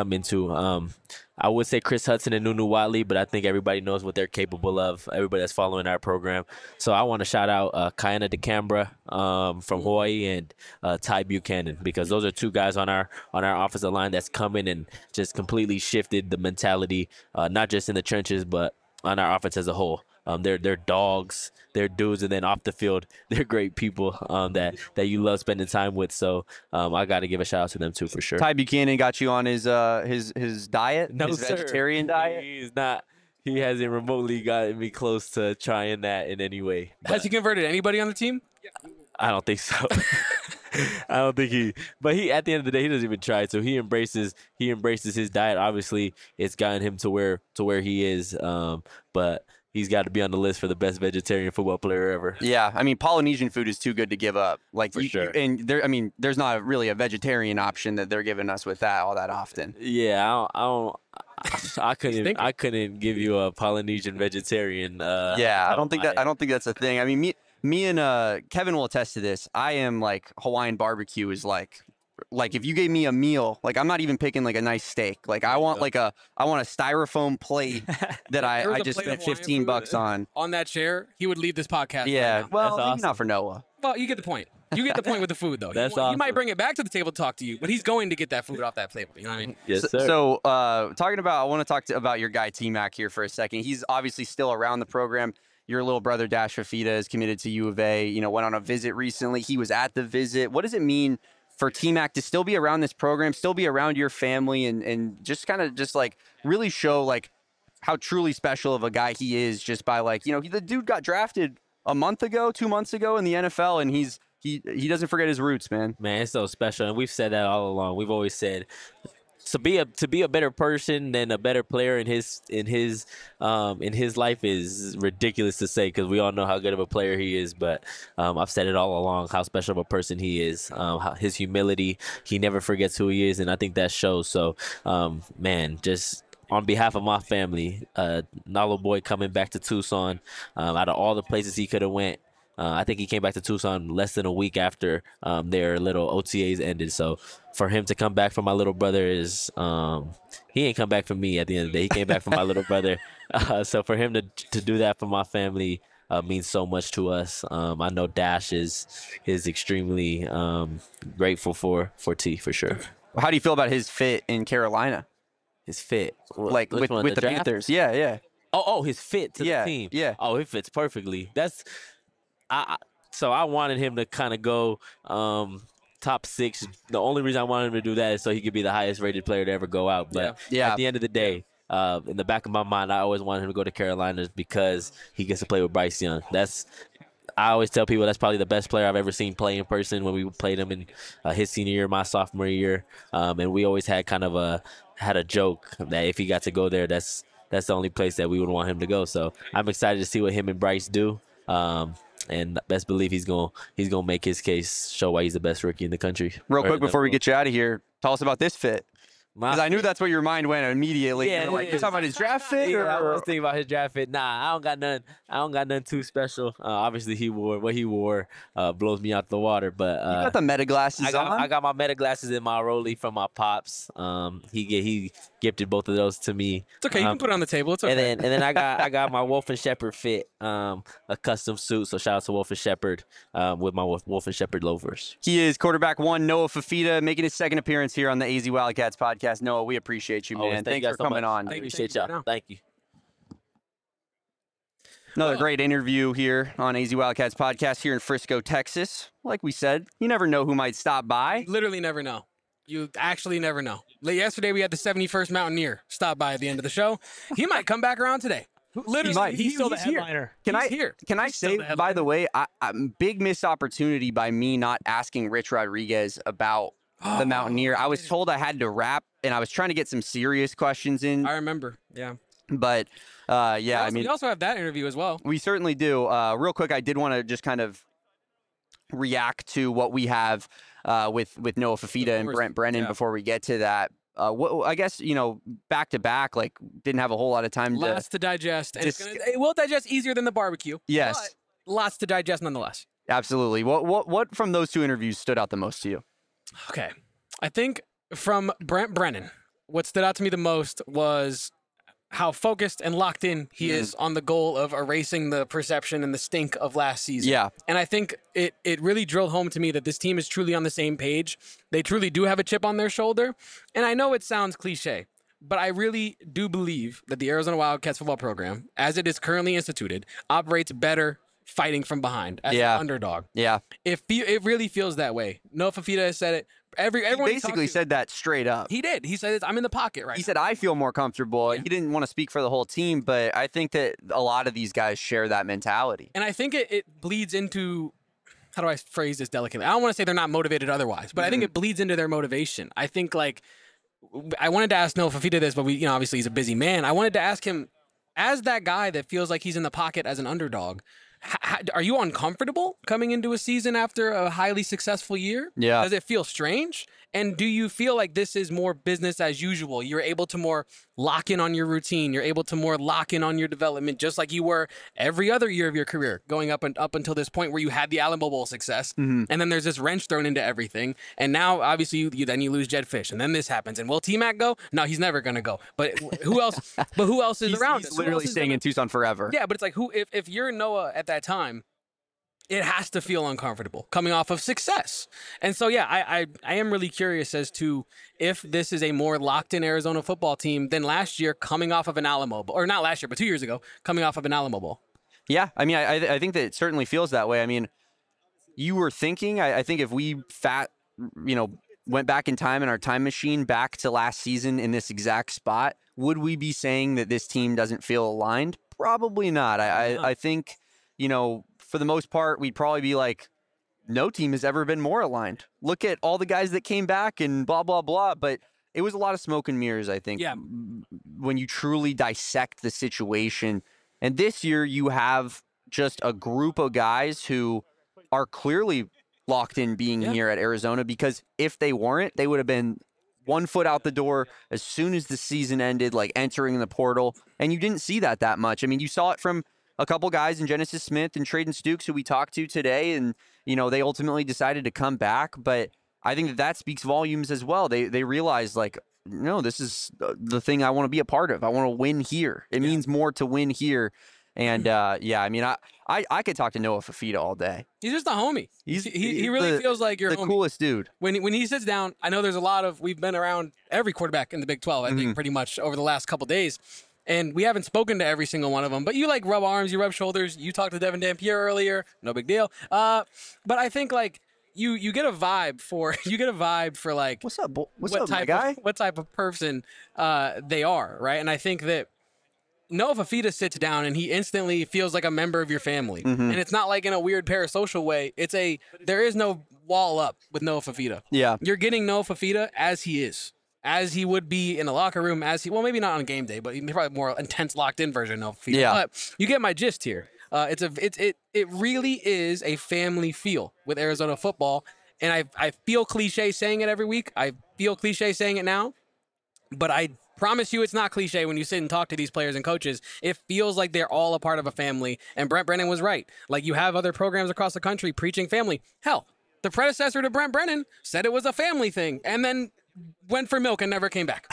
I would say Chris Hudson and Nunu Watley, but I think everybody knows what they're capable of. Everybody that's following our program. So I want to shout out Kiana DeCambra from Hawaii and Ty Buchanan, because those are two guys on our offensive line that's coming and just completely shifted the mentality, not just in the trenches, but on our offense as a whole. They're dogs, they're dudes, and then off the field, they're great people that you love spending time with. So I got to give a shout out to them too, for sure. Ty Buchanan got you on his diet, No, his sir. vegetarian diet. He's not. He hasn't remotely gotten me close to trying that in any way. Has he converted anybody on the team? I don't think so. I don't think he. But he, at the end of the day, he doesn't even try. So he embraces his diet. Obviously, it's gotten him to where he is. But he's got to be on the list for the best vegetarian football player ever. Yeah, I mean, Polynesian food is too good to give up. Like, For sure. And there's not really a vegetarian option that they're giving us with that all that often. Yeah, I couldn't give you a Polynesian vegetarian. Yeah, I don't think that's a thing. I mean, me and Kevin will attest to this. I am like Hawaiian barbecue is like if you gave me a meal, like I'm not even picking like a nice steak. Like I want a styrofoam plate that I just spent $15 on. On that chair, he would leave this podcast. Yeah, right now. well, That's maybe awesome. not for Noah. Well, you get the point. You get the point with the food, though. That's He awesome. might bring it back to the table to talk to you, but he's going to get that food off that table. You know what I mean? Yes, sir. So, I want to talk about your guy T-Mac here for a second. He's obviously still around the program. Your little brother Dash Fafita is committed to U of A. You know, went on a visit recently. He was at the visit. What does it mean for T-Mac to still be around this program, still be around your family, and just kind of just like really show like how truly special of a guy he is, just by like, you know, the dude got drafted 2 months ago in the NFL, and he doesn't forget his roots, man. Man, it's so special, and we've said that all along. We've always said to be a better person than a better player in his life is ridiculous to say, because we all know how good of a player he is. But I've said it all along how special of a person he is. His humility, he never forgets who he is, and I think that shows. So, man, just on behalf of my family, Nalo Boy coming back to Tucson, out of all the places he could have went. I think he came back to Tucson less than a week after their little OTAs ended. So for him to come back for my little brother is he ain't come back for me at the end of the day. He came back for my little brother. So for him to do that for my family means so much to us. I know Dash is extremely grateful for T, for sure. How do you feel about his fit in Carolina? His fit, Like Which one, with the draft? Panthers? Yeah. Oh, his fit to the team. Yeah. Oh, it fits perfectly. So I wanted him to kind of go top 6. The only reason I wanted him to do that is so he could be the highest rated player to ever go out. But Yeah. at the end of the day, in the back of my mind, I always wanted him to go to Carolina because he gets to play with Bryce Young. I always tell people that's probably the best player I've ever seen play in person when we played him in his senior year, my sophomore year. And we always had had a joke that if he got to go there, that's the only place that we would want him to go. So I'm excited to see what him and Bryce do. And best believe he's gonna make his case, show why he's the best rookie in the country. Real quick before we get you out of here, tell us about this fit. Because I knew that's where your mind went immediately. Yeah, You're like, you're talking about his draft fit? Yeah, I or- was thinking about his draft fit. Nah, I don't got nothing too special. Obviously, what he wore blows me out the water. But You got the meta glasses on? I got my meta glasses in my Rollie from my pops. He gifted both of those to me. It's okay. You can put it on the table. It's okay. And then I got my Wolf and Shepherd fit, a custom suit. So shout out to Wolf and Shepherd with my Wolf and Shepherd loafers. He is quarterback 1, Noah Fafita, making his second appearance here on the AZ Wildcats podcast. Noah, we appreciate you, man. Always, thank Thanks you for guys so coming much. on. I Thank you. appreciate Thank you. y'all. Thank you. Another great interview here on AZ Wildcats podcast here in Frisco, Texas. Like we said, you never know who might stop by. You literally never know. You actually never know. Yesterday, we had the 71st Mountaineer stop by at the end of the show. He might come back around today. Literally, He's still the here. headliner. Can He's here. I He's still say, the headliner. by the way, big missed opportunity by me not asking Rich Rodriguez about Oh, the Mountaineer. I was told I had to rap, and I was trying to get some serious questions in. I remember. Yeah. But yeah, I mean, we also have that interview as well. we certainly do. Real quick, I did want to just kind of react to what we have with Noah Fifita and Brent Brennan before we get to that. I guess, back to back, like, didn't have a whole lot of time Lots to digest. And it will digest easier than the barbecue. Yes. But lots to digest nonetheless. Absolutely. What from those two interviews stood out the most to you? Okay. I think from Brent Brennan, what stood out to me the most was how focused and locked in he is on the goal of erasing the perception and the stink of last season. Yeah. And I think it really drilled home to me that this team is truly on the same page. They truly do have a chip on their shoulder. And I know it sounds cliche, but I really do believe that the Arizona Wildcats football program, as it is currently instituted, operates better fighting from behind as an underdog. Yeah. It really feels that way. Noah Fifita has said it. Everyone he basically said that straight up. He did. He said, I'm in the pocket right now. He said, I feel more comfortable. Yeah. He didn't want to speak for the whole team, but I think that a lot of these guys share that mentality. And I think it bleeds into, how do I phrase this delicately? I don't want to say they're not motivated otherwise, but I think it bleeds into their motivation. I think, like, I wanted to ask Noah Fifita this, but obviously he's a busy man. I wanted to ask him, as that guy that feels like he's in the pocket as an underdog, are you uncomfortable coming into a season after a highly successful year? Yeah. Does it feel strange? And do you feel like this is more business as usual? You're able to more lock in on your routine. You're able to more lock in on your development, just like you were every other year of your career, going up until this point where you had the Alamo Bowl success. And then there's this wrench thrown into everything. And now, obviously, you lose Jedd Fisch, and then this happens. And will T-Mac go? No, he's never going to go. But who else? Who else is around? He's literally staying in Tucson forever. Yeah, but it's like, if you're Noah at that time, it has to feel uncomfortable coming off of success. And so, yeah, I am really curious as to if this is a more locked-in Arizona football team than last year coming off of an Alamo Bowl. Or not last year, but 2 years ago, coming off of an Alamo Bowl. Yeah, I mean, I think that it certainly feels that way. I mean, you were thinking, I think if we went back in time in our time machine back to last season in this exact spot, would we be saying that this team doesn't feel aligned? Probably not. I think, for the most part, we'd probably be like, no team has ever been more aligned. Look at all the guys that came back and blah, blah, blah. But it was a lot of smoke and mirrors, I think, when you truly dissect the situation. And this year you have just a group of guys who are clearly locked in being here at Arizona, because if they weren't, they would have been 1 foot out the door as soon as the season ended, like entering the portal. And you didn't see that much. I mean, you saw it from a couple guys in Genesis Smith and Traden Stukes, who we talked to today, and they ultimately decided to come back. But I think that speaks volumes as well. They realized, like, no, this is the thing I want to be a part of. I want to win here. It means more to win here. And I mean, I could talk to Noah Fifita all day. He's just a homie. He really feels like you're the coolest dude. When he sits down, I know there's a lot of, we've been around every quarterback in the Big 12, I think, pretty much over the last couple days. And we haven't spoken to every single one of them, but you like rub arms, you rub shoulders. You talked to Devin Dampier earlier, no big deal. But I think, like, you get a vibe for like, what's up, my guy? What type of person they are, right? And I think that Noah Fifita sits down and he instantly feels like a member of your family, and it's not like in a weird parasocial way. There is no wall up with Noah Fifita. Yeah, you're getting Noah Fifita as he is. As he would be in the locker room, maybe not on game day, but he's probably more intense, locked-in version of Fifita. Yeah. But you get my gist here. It really is a family feel with Arizona football, and I feel cliche saying it every week. I feel cliche saying it now, but I promise you it's not cliche when you sit and talk to these players and coaches. It feels like they're all a part of a family, and Brent Brennan was right. Like, you have other programs across the country preaching family. Hell, the predecessor to Brent Brennan said it was a family thing, and then went for milk and never came back.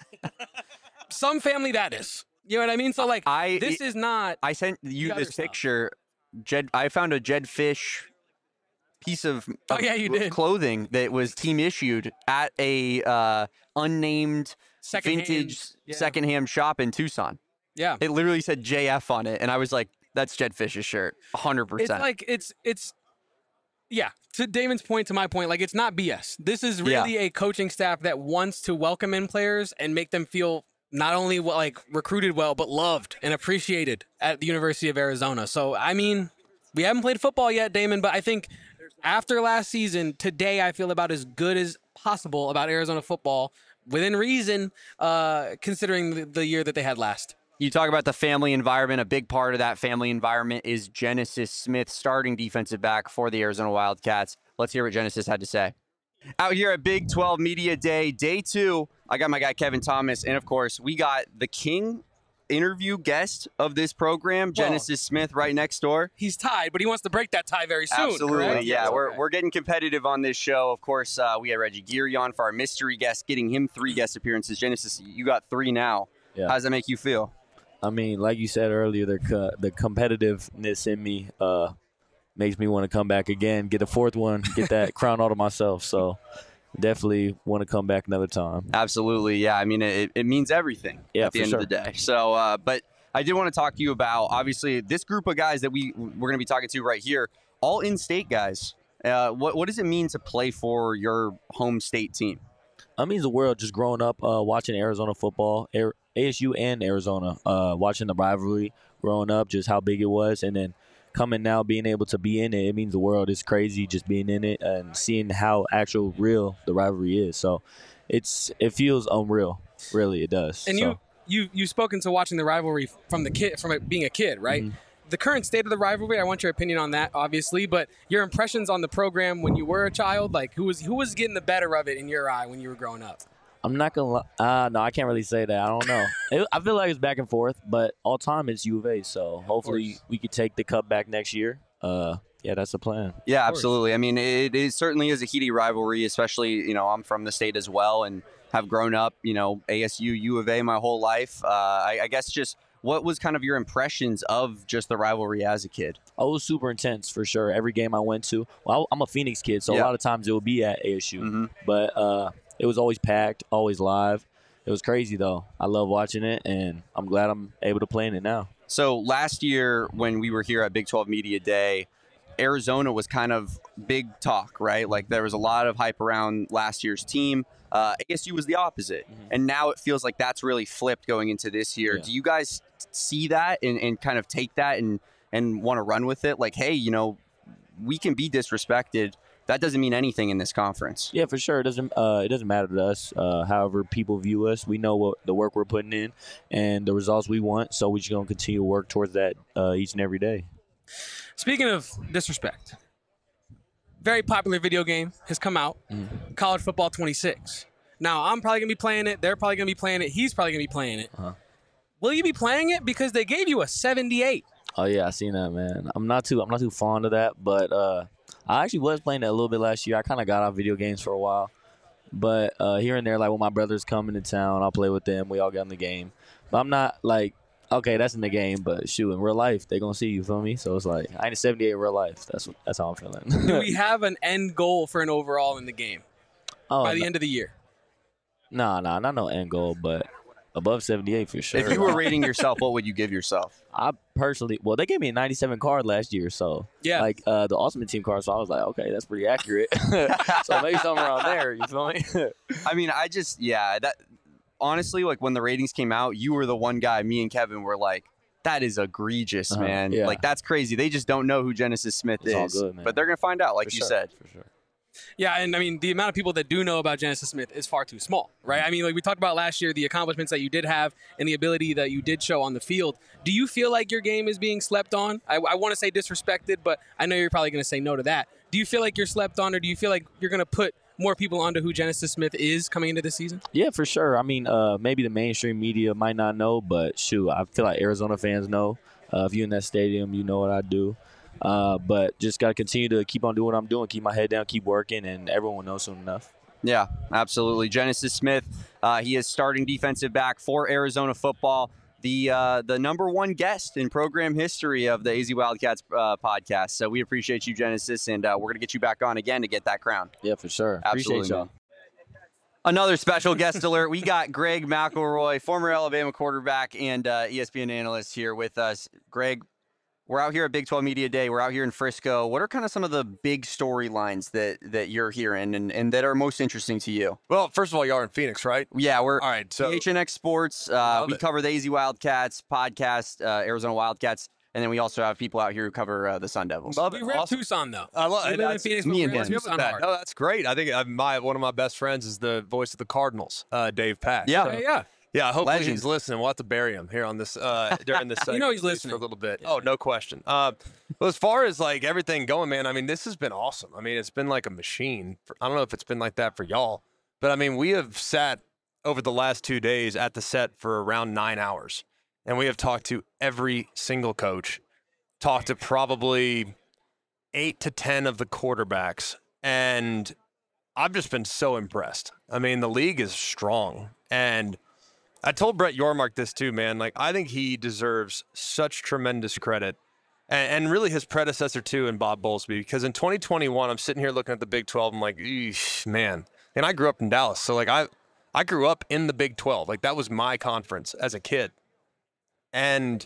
Some family that is. You know what I mean? So, like, this is not. I sent you this picture. I found a Jedd Fisch piece of clothing that was team issued at a unnamed vintage secondhand shop in Tucson. Yeah. It literally said JF on it, and I was like, that's Jedd Fisch's shirt, 100%. It's like, it's yeah, to Damon's point, to my point, like, it's not BS. This is really a coaching staff that wants to welcome in players and make them feel not only like recruited well, but loved and appreciated at the University of Arizona. So, I mean, we haven't played football yet, Damon, but I think after last season, today I feel about as good as possible about Arizona football, within reason, considering the year that they had last. You talk about the family environment. A big part of that family environment is Genesis Smith, starting defensive back for the Arizona Wildcats. Let's hear what Genesis had to say. Out here at Big 12 Media Day, day 2, I got my guy Kevin Thomas, and of course, we got the king interview guest of this program, Genesis Smith, right next door. He's tied, but he wants to break that tie very soon. Absolutely, correct? yeah. We're getting competitive on this show. Of course, we had Reggie Geary on for our mystery guest, getting him 3 guest appearances. Genesis, you got 3 now. Yeah. How does that make you feel? I mean, like you said earlier, the competitiveness in me makes me want to come back again, get a 4th one, get that crown all to myself. So definitely want to come back another time. Absolutely, yeah. I mean, it means everything at the end of the day. So, but I did want to talk to you about, obviously, this group of guys that we're going to be talking to right here, all in-state guys. What does it mean to play for your home state team? It means the world. Just growing up watching Arizona football, ASU and Arizona, watching the rivalry, growing up, just how big it was, and then coming now, being able to be in it, it means the world. It's crazy just being in it and seeing how actual real the rivalry is. So it feels unreal. Really, it does. And you've spoken to watching the rivalry from it being a kid, right? Mm-hmm. The current state of the rivalry, I want your opinion on that, obviously, but your impressions on the program when you were a child, like who was getting the better of it in your eye when you were growing up? I'm not going to lie. No, I can't really say that. I don't know. I feel like it's back and forth, but all time it's U of A, so hopefully we could take the cup back next year. Yeah, that's the plan. Yeah, absolutely. I mean, it certainly is a heated rivalry, especially, I'm from the state as well and have grown up, ASU, U of A my whole life. I guess just what was kind of your impressions of just the rivalry as a kid? Oh, it was super intense for sure. Every game I went to, well, I'm a Phoenix kid, so a lot of times it would be at ASU. But it was always packed, always live. It was crazy, though. I love watching it, and I'm glad I'm able to play in it now. So last year when we were here at Big 12 Media Day, Arizona was kind of big talk, right? Like there was a lot of hype around last year's team. ASU was the opposite. And now it feels like that's really flipped going into this year. Yeah. Do you guys see that and kind of take that and want to run with it? Like, hey, we can be disrespected. That doesn't mean anything in this conference. Yeah, for sure. It doesn't matter to us. However people view us, we know what the work we're putting in and the results we want. So we're just going to continue to work towards that each and every day. Speaking of disrespect, very popular video game has come out, College Football 26. Now, I'm probably going to be playing it. They're probably going to be playing it. He's probably going to be playing it. Will you be playing it? Because they gave you a 78. Oh, yeah, I seen that, man. I'm not too fond of that, but I actually was playing that a little bit last year. I kind of got off video games for a while. But here and there, like when my brothers come into town, I'll play with them. We all get in the game. But I'm not like, okay, that's in the game, but shoot, in real life, they're going to see you, feel me? So it's like, I ain't a 78 in real life. That's how I'm feeling. Do we have an end goal for an overall in the game by the end of the year? Nah, not no end goal, but above 78 for sure. If you were rating yourself, what would you give yourself? I personally, well, they gave me a 97 card last year, so yeah, like the Ultimate Team card. So I was like, okay, that's pretty accurate. So maybe something around there. You feel me? I mean, that honestly, like when the ratings came out, you were the one guy. Me and Kevin were like, that is egregious, man. Yeah. Like that's crazy. They just don't know who Genesis Smith is. All good, man. But they're gonna find out, like for you sure, said. for sure. Yeah, and I mean, the amount of people that do know about Genesis Smith is far too small, right? I mean, like we talked about last year, the accomplishments that you did have and the ability that you did show on the field. Do you feel like your game is being slept on? I want to say disrespected, but I know you're probably going to say no to that. Do you feel like you're slept on, or do you feel like you're going to put more people onto who Genesis Smith is coming into this season? Yeah, for sure. I mean, maybe the mainstream media might not know, but shoot, I feel like Arizona fans know. If you're in that stadium, you know what I do. But just got to continue to keep on doing what I'm doing, keep my head down, keep working, and everyone will know soon enough. Yeah, absolutely. Genesis Smith, he is starting defensive back for Arizona football, the number one guest in program history of the AZ Wildcats podcast. So we appreciate you, Genesis, and we're going to get you back on again to get that crown. Yeah, for sure. Absolutely. Appreciate y'all. Another special guest alert. We got Greg McElroy, former Alabama quarterback and ESPN analyst here with us. Greg, we're out here at Big 12 Media Day. We're out here in Frisco. What are kind of some of the big storylines that you're hearing and that are most interesting to you? Well, first of all, you are in Phoenix, right? Yeah, we're all right. So HNX Sports. We cover the AZ Wildcats podcast, Arizona Wildcats, and then we also have people out here who cover the Sun Devils. We rep Tucson, though. I love we live in Phoenix. Me and we him. Tucson hard. No, that's great. I think one of my best friends is the voice of the Cardinals, Dave Pash. Yeah. So, Yeah. Yeah, hopefully Legend. he's listening. We'll have to bury him here on this during this segment. You know he's at least listening. for a little bit. Oh, no question. But as far as like everything going, man, I mean, this has been awesome. I mean, it's been like a machine. I don't know if it's been like that for y'all, but I mean, we have sat over the last 2 days at the set for around 9 hours, and we have talked to every single coach, talked to probably 8 to 10 of the quarterbacks, and I've just been so impressed. I mean, the league is strong, and I told Brett Yormark this too, man. Like, I think he deserves such tremendous credit, and really his predecessor too in Bob Bowlesby, because in 2021, I'm sitting here looking at the Big 12. I'm like, eesh, man. And I grew up in Dallas, so like I grew up in the Big 12. Like, that was my conference as a kid, and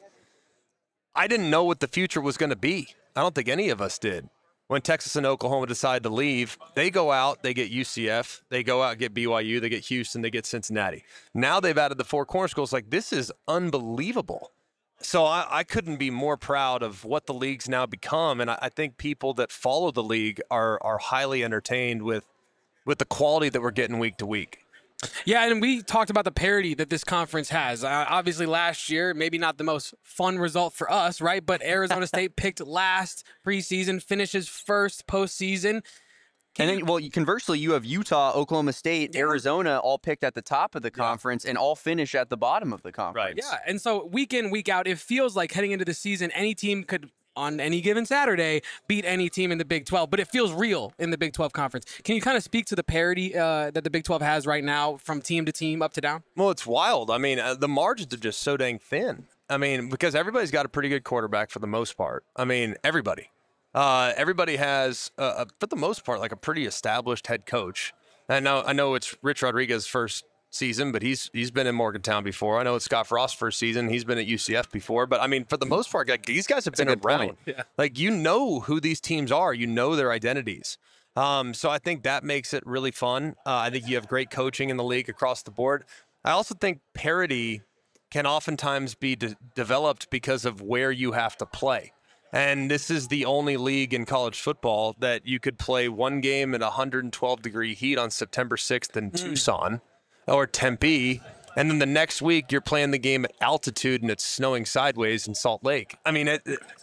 I didn't know what the future was going to be. I don't think any of us did. When Texas and Oklahoma decide to leave, they go out, they get UCF, they go out and get BYU, they get Houston, they get Cincinnati. Now they've added the 4 corner schools. Like, this is unbelievable. So I couldn't be more proud of what the league's now become, and I think people that follow the league are highly entertained with the quality that we're getting week to week. Yeah, and we talked about the parity that this conference has. Obviously, last year, maybe not the most fun result for us, right? But Arizona State picked last preseason, finishes first postseason. And then, well, conversely, you have Utah, Oklahoma State, Arizona all picked at the top of the conference and all finish at the bottom of the conference. Right. Yeah, and so week in, week out, it feels like heading into the season, any team could, on any given Saturday, beat any team in the Big 12, but it feels real in the Big 12 conference. Can you kind of speak to the parity that the Big 12 has right now from team to team, up to down? Well, it's wild. I mean, the margins are just so dang thin. I mean, because everybody's got a pretty good quarterback for the most part. I mean, everybody. Everybody has, for the most part, like a pretty established head coach. I know it's Rich Rodriguez's first season, but he's been in Morgantown before. I know it's Scott Frost's first season. He's been at UCF before. But, I mean, for the most part, like, these guys have been around. Yeah. Like, you know who these teams are. You know their identities. So I think that makes it really fun. I think you have great coaching in the league across the board. I also think parity can oftentimes be developed because of where you have to play. And this is the only league in college football that you could play one game at 112-degree heat on September 6th in Tucson or Tempe, and then the next week you're playing the game at altitude and it's snowing sideways in Salt Lake. I mean,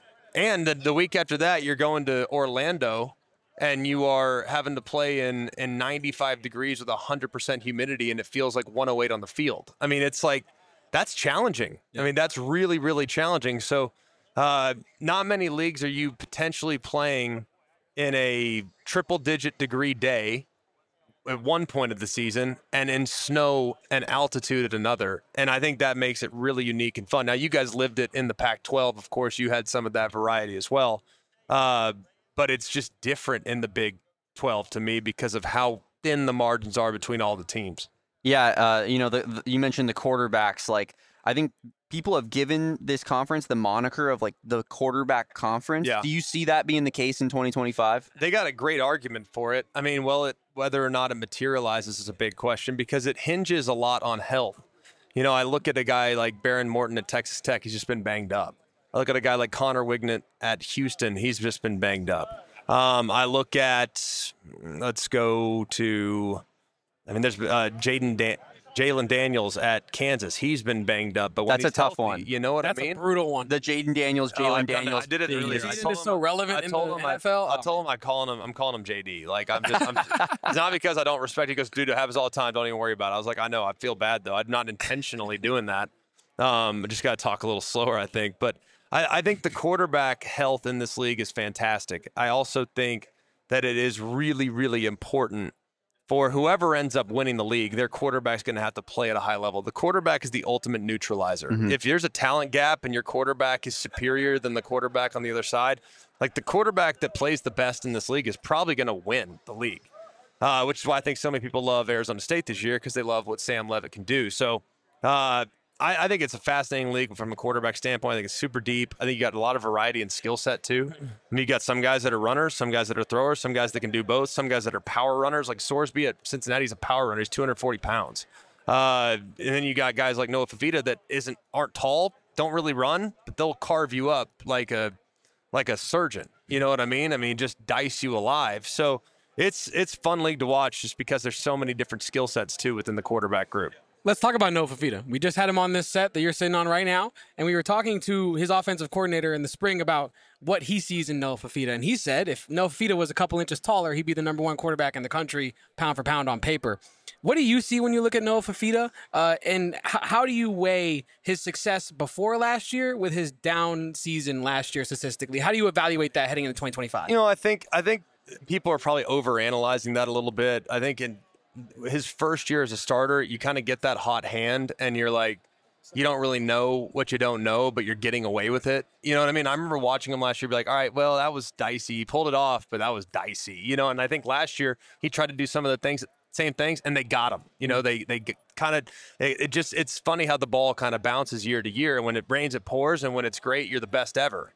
and the week after that you're going to Orlando and you are having to play in 95 degrees with 100% humidity and it feels like 108 on the field. I mean, it's like, that's challenging. Yeah. I mean, that's really, really challenging. So not many leagues are you potentially playing in a triple-digit degree day at one point of the season and in snow and altitude at another. And I think that makes it really unique and fun. Now, you guys lived it in the Pac-12. Of course, you had some of that variety as well. But it's just different in the Big 12 to me because of how thin the margins are between all the teams. Yeah, you mentioned the quarterbacks. Like, I think people have given this conference the moniker of like the quarterback conference. Yeah. Do you see that being the case in 2025? They got a great argument for it. I mean, whether or not it materializes is a big question because it hinges a lot on health. You know, I look at a guy like Baron Morton at Texas Tech. He's just been banged up. I look at a guy like Connor Wignett at Houston. He's just been banged up. I look at, let's go to, I mean, there's Jalen Daniels at Kansas. He's been banged up, but when that's a tough healthy, one. You know what That's I mean? a brutal one. The Jalen Daniels. I did it The earlier. season is so relevant in the NFL. I told him I'm calling him JD. Like I'm it's not because I don't respect. He goes, dude, it happens all the time. Don't even worry about it. I was like, I know. I feel bad though. I'm not intentionally doing that. I just got to talk a little slower, I think. But I think the quarterback health in this league is fantastic. I also think that it is really, really important for whoever ends up winning the league. Their quarterback's going to have to play at a high level. The quarterback is the ultimate neutralizer. Mm-hmm. If there's a talent gap and your quarterback is superior than the quarterback on the other side, like the quarterback that plays the best in this league is probably going to win the league, which is why I think so many people love Arizona State this year because they love what Sam Leavitt can do. So I think it's a fascinating league from a quarterback standpoint. I think it's super deep. I think you got a lot of variety and skill set too. I mean, you got some guys that are runners, some guys that are throwers, some guys that can do both, some guys that are power runners. Like Sorsby at Cincinnati is a power runner. He's 240 pounds. And then you got guys like Noah Fafita that aren't tall, don't really run, but they'll carve you up like a surgeon. You know what I mean? I mean, just dice you alive. So it's fun league to watch just because there's so many different skill sets too within the quarterback group. Let's talk about Noah Fafita. We just had him on this set that you're sitting on right now, and we were talking to his offensive coordinator in the spring about what he sees in Noah Fafita. And he said if Noah Fafita was a couple inches taller, he'd be the number 1 quarterback in the country, pound for pound on paper. What do you see when you look at Noah Fafita? And how do you weigh his success before last year with his down season last year statistically? How do you evaluate that heading into 2025? I think people are probably overanalyzing that a little bit. I think in his first year as a starter, you kind of get that hot hand and you're like, you don't really know what you don't know, but you're getting away with it. You know what I mean? I remember watching him last year, be like, all right, well, that was dicey. He pulled it off, but that was dicey. And I think last year he tried to do some of the same things, and they got him. It's funny how the ball kind of bounces year to year. And when it rains, it pours, and when it's great, you're the best ever.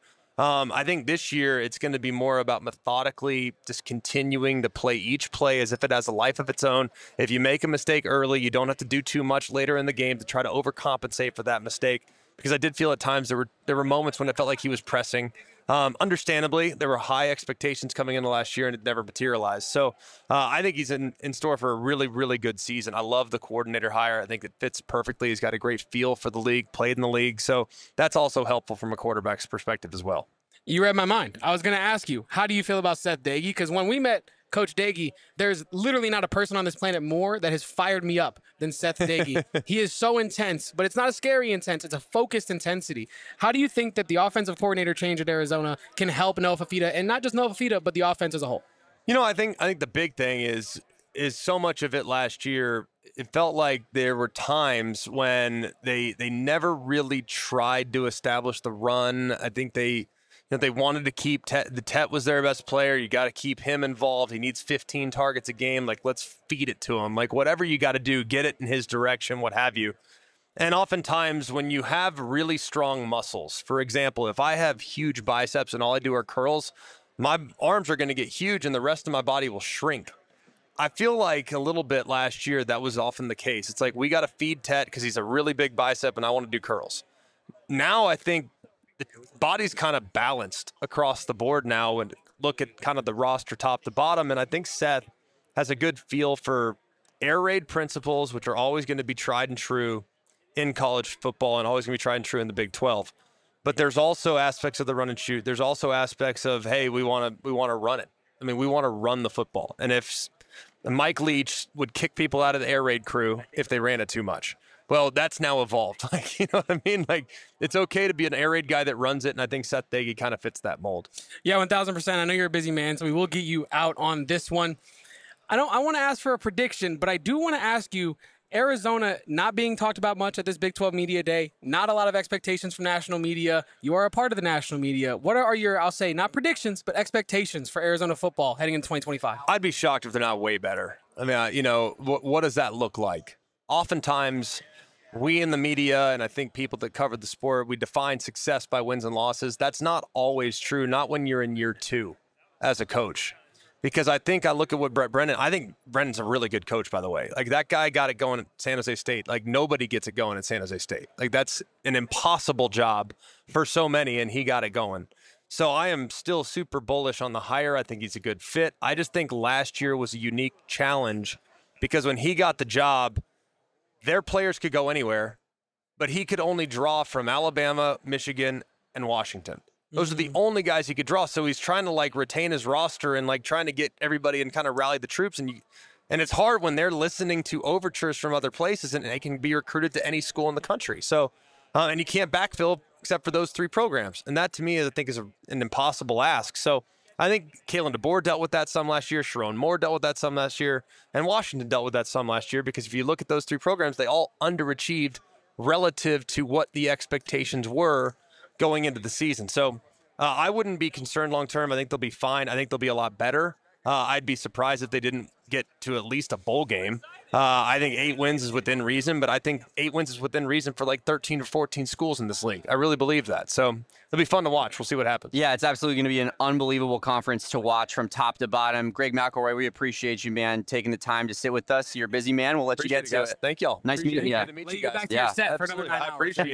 I think this year it's going to be more about methodically just continuing to play each play as if it has a life of its own. If you make a mistake early, you don't have to do too much later in the game to try to overcompensate for that mistake. Because I did feel at times there were moments when it felt like he was pressing. Understandably, there were high expectations coming into last year, and it never materialized. So I think he's in store for a really, really good season. I love the coordinator hire. I think it fits perfectly. He's got a great feel for the league, played in the league. So that's also helpful from a quarterback's perspective as well. You read my mind. I was going to ask you, how do you feel about Seth Doege? Because when we met Coach Doege, there's literally not a person on this planet more that has fired me up than Seth Doege. He is so intense, but it's not a scary intense. It's a focused intensity. How do you think that the offensive coordinator change at Arizona can help Noah Fafita, and not just Noah Fafita, but the offense as a whole? I think the big thing is so much of it last year, it felt like there were times when they never really tried to establish the run. I think they wanted to keep Tet was their best player. You got to keep him involved. He needs 15 targets a game. Like, let's feed it to him. Like, whatever you got to do, get it in his direction, what have you. And oftentimes when you have really strong muscles, for example, if I have huge biceps and all I do are curls, my arms are going to get huge and the rest of my body will shrink. I feel like a little bit last year that was often the case. It's like, we got to feed Tet because he's a really big bicep and I want to do curls. Now I think the body's kind of balanced across the board now, and look at kind of the roster top to bottom. And I think Seth has a good feel for air raid principles, which are always going to be tried and true in college football and always going to be tried and true in the Big 12. But there's also aspects of the run and shoot. There's also aspects of, hey, we want to run it. I mean, we want to run the football. And if Mike Leach would kick people out of the air raid crew if they ran it too much. Well, that's now evolved. Like, you know what I mean? Like, it's okay to be an air raid guy that runs it, and I think Seth Doege kind of fits that mold. Yeah, 1,000%. I know you're a busy man, so we will get you out on this one. I want to ask for a prediction, but I do want to ask you, Arizona not being talked about much at this Big 12 Media Day, not a lot of expectations from national media. You are a part of the national media. What are your, I'll say, not predictions, but expectations for Arizona football heading into 2025? I'd be shocked if they're not way better. I mean, what does that look like? Oftentimes, we in the media, and I think people that cover the sport, we define success by wins and losses. That's not always true, not when you're in year 2 as a coach. Because I look at what Brent Brennan, I think Brennan's a really good coach, by the way. Like, that guy got it going at San Jose State. Like, nobody gets it going at San Jose State. Like, that's an impossible job for so many, and he got it going. So I am still super bullish on the hire. I think he's a good fit. I just think last year was a unique challenge because when he got the job, their players could go anywhere, but he could only draw from Alabama, Michigan, and Washington. Those are the only guys he could draw. So he's trying to retain his roster and trying to get everybody and kind of rally the troops. And it's hard when they're listening to overtures from other places and they can be recruited to any school in the country. So, and you can't backfill except for those 3 programs. And that to me, I think is an impossible ask. So I think Kalen DeBoer dealt with that some last year. Sharon Moore dealt with that some last year. And Washington dealt with that some last year because if you look at those 3 programs, they all underachieved relative to what the expectations were going into the season. So I wouldn't be concerned long term. I think they'll be fine. I think they'll be a lot better. I'd be surprised if they didn't get to at least a bowl game. I think 8 wins is within reason, but I think 8 wins is within reason for 13 or 14 schools in this league. I really believe that. So it'll be fun to watch. We'll see what happens. Yeah, it's absolutely going to be an unbelievable conference to watch from top to bottom. Greg McElroy, we appreciate you, man, taking the time to sit with us. You're a busy man. We'll let you get to it. Thank y'all. Nice meeting you. Let you get back to your set for another 9 hours. I appreciate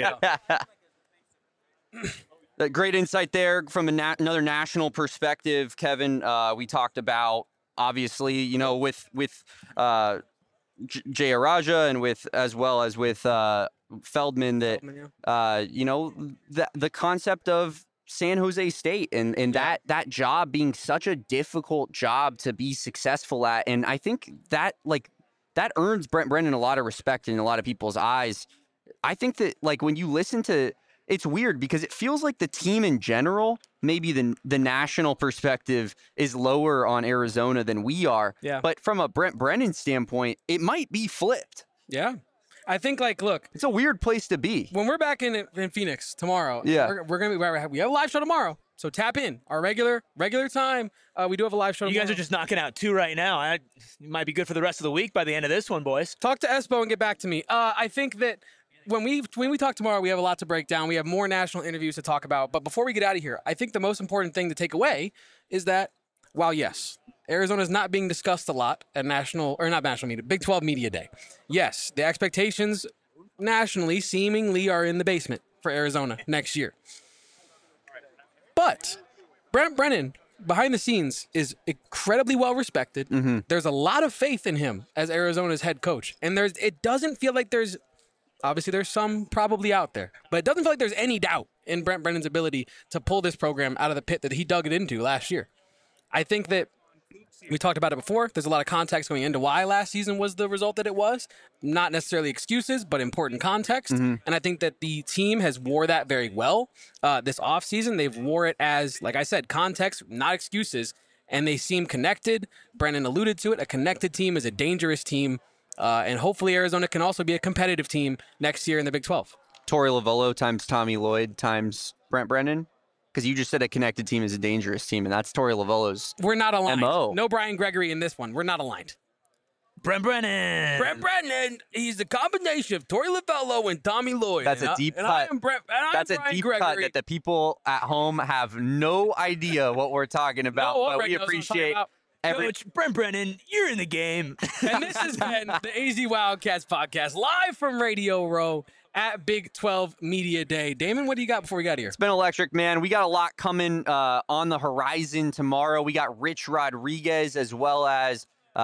it. Great insight there from another national perspective, Kevin. We talked about, obviously, with Jay Araja and as well as with Feldman that the concept of San Jose State and that job being such a difficult job to be successful at, and I think that that earns Brent Brennan a lot of respect in a lot of people's eyes. I think that when you listen to, it's weird because it feels like the team in general, maybe the national perspective is lower on Arizona than we are. Yeah. But from a Brent Brennan standpoint, it might be flipped. Yeah. I think look, it's a weird place to be. When we're back in Phoenix tomorrow, we're gonna be we have a live show tomorrow. So tap in our regular time. We do have a live show. You guys are just knocking out 2 right now. It might be good for the rest of the week by the end of this one, boys. Talk to Espo and get back to me. I think that when we talk tomorrow, we have a lot to break down. We have more national interviews to talk about. But before we get out of here, I think the most important thing to take away is that while yes, Arizona is not being discussed a lot at Big 12 Media Day. Yes, the expectations nationally seemingly are in the basement for Arizona next year. But Brent Brennan, behind the scenes, is incredibly well respected. Mm-hmm. There's a lot of faith in him as Arizona's head coach. And it doesn't feel like there's some probably out there, but it doesn't feel like there's any doubt in Brent Brennan's ability to pull this program out of the pit that he dug it into last year. I think that we talked about it before. There's a lot of context going into why last season was the result that it was. Not necessarily excuses, but important context. Mm-hmm. And I think that the team has wore that very well this offseason. They've wore it as, like I said, context, not excuses. And they seem connected. Brennan alluded to it. A connected team is a dangerous team. And hopefully Arizona can also be a competitive team next year in the Big 12. Torey Lovullo times Tommy Lloyd times Brent Brennan. Because you just said a connected team is a dangerous team, and that's Torey Lovullo's We're not aligned. MO. No Brian Gregory in this one. We're not aligned. Brent Brennan. Brent Brennan, he's the combination of Torey Lovullo and Tommy Lloyd. That's a deep cut. That's a deep cut that the people at home have no idea what we're talking about, but we appreciate Coach Brent Brennan, you're in the game. And this has been the AZ Wildcats podcast, live from Radio Row at Big 12 Media Day. Damon, what do you got before we got here? It's been electric, man. We got a lot coming on the horizon tomorrow. We got Rich Rodriguez as well as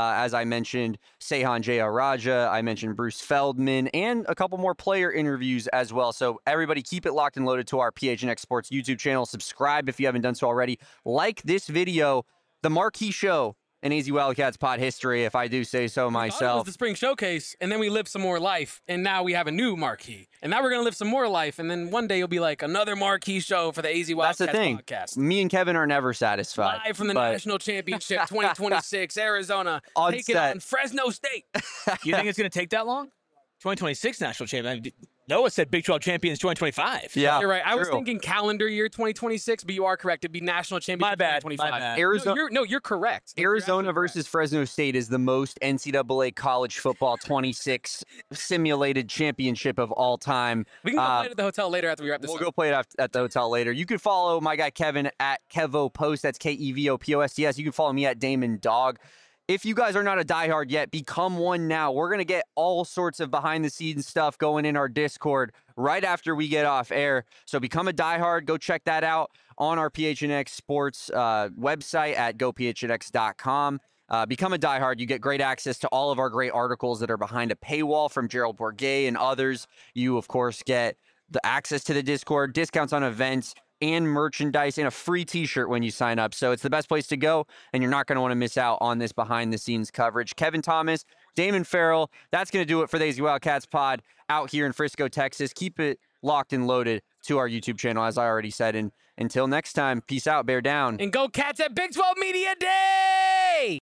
I mentioned, Seihan Jayaraja. I mentioned Bruce Feldman and a couple more player interviews as well. So everybody keep it locked and loaded to our PHNX Sports YouTube channel. Subscribe if you haven't done so already. Like this video, the marquee show in AZ Wildcats pod history, if I do say so myself. It was the spring showcase, and then we lived some more life, and now we have a new marquee. And now we're going to live some more life, and then one day you'll be like another marquee show for the AZ Wildcats That's the thing. podcast. Me and Kevin are never satisfied. Live from the National Championship 2026, Arizona, taking on Fresno State. You think it's going to take that long? 2026 National Championship. Noah said Big 12 champions 2025. Yeah, you're right. I was true. thinking calendar year 2026, but you are correct. It'd be National Championship 2025. My bad. Arizona, you're correct. Arizona versus Fresno State is the most NCAA college football 26 simulated championship of all time. We can go play it at the hotel later after we wrap this up. We'll go play it at the hotel later. You can follow my guy Kevin at KevoPost. That's KevoPosts. You can follow me at Damon Dog. If you guys are not a diehard yet, become one now. We're going to get all sorts of behind-the-scenes stuff going in our Discord right after we get off air. So become a diehard. Go check that out on our PHNX Sports website at gophnx.com. Become a diehard. You get great access to all of our great articles that are behind a paywall from Gerald Bourguet and others. You, of course, get the access to the Discord, discounts on events, and merchandise, and a free t-shirt when you sign up. So it's the best place to go, and you're not going to want to miss out on this behind-the-scenes coverage. Kevin Thomas, Damon Farrell, that's going to do it for the AZ Wildcats pod out here in Frisco, Texas. Keep it locked and loaded to our YouTube channel, as I already said. And until next time, peace out, bear down. And go Cats at Big 12 Media Day!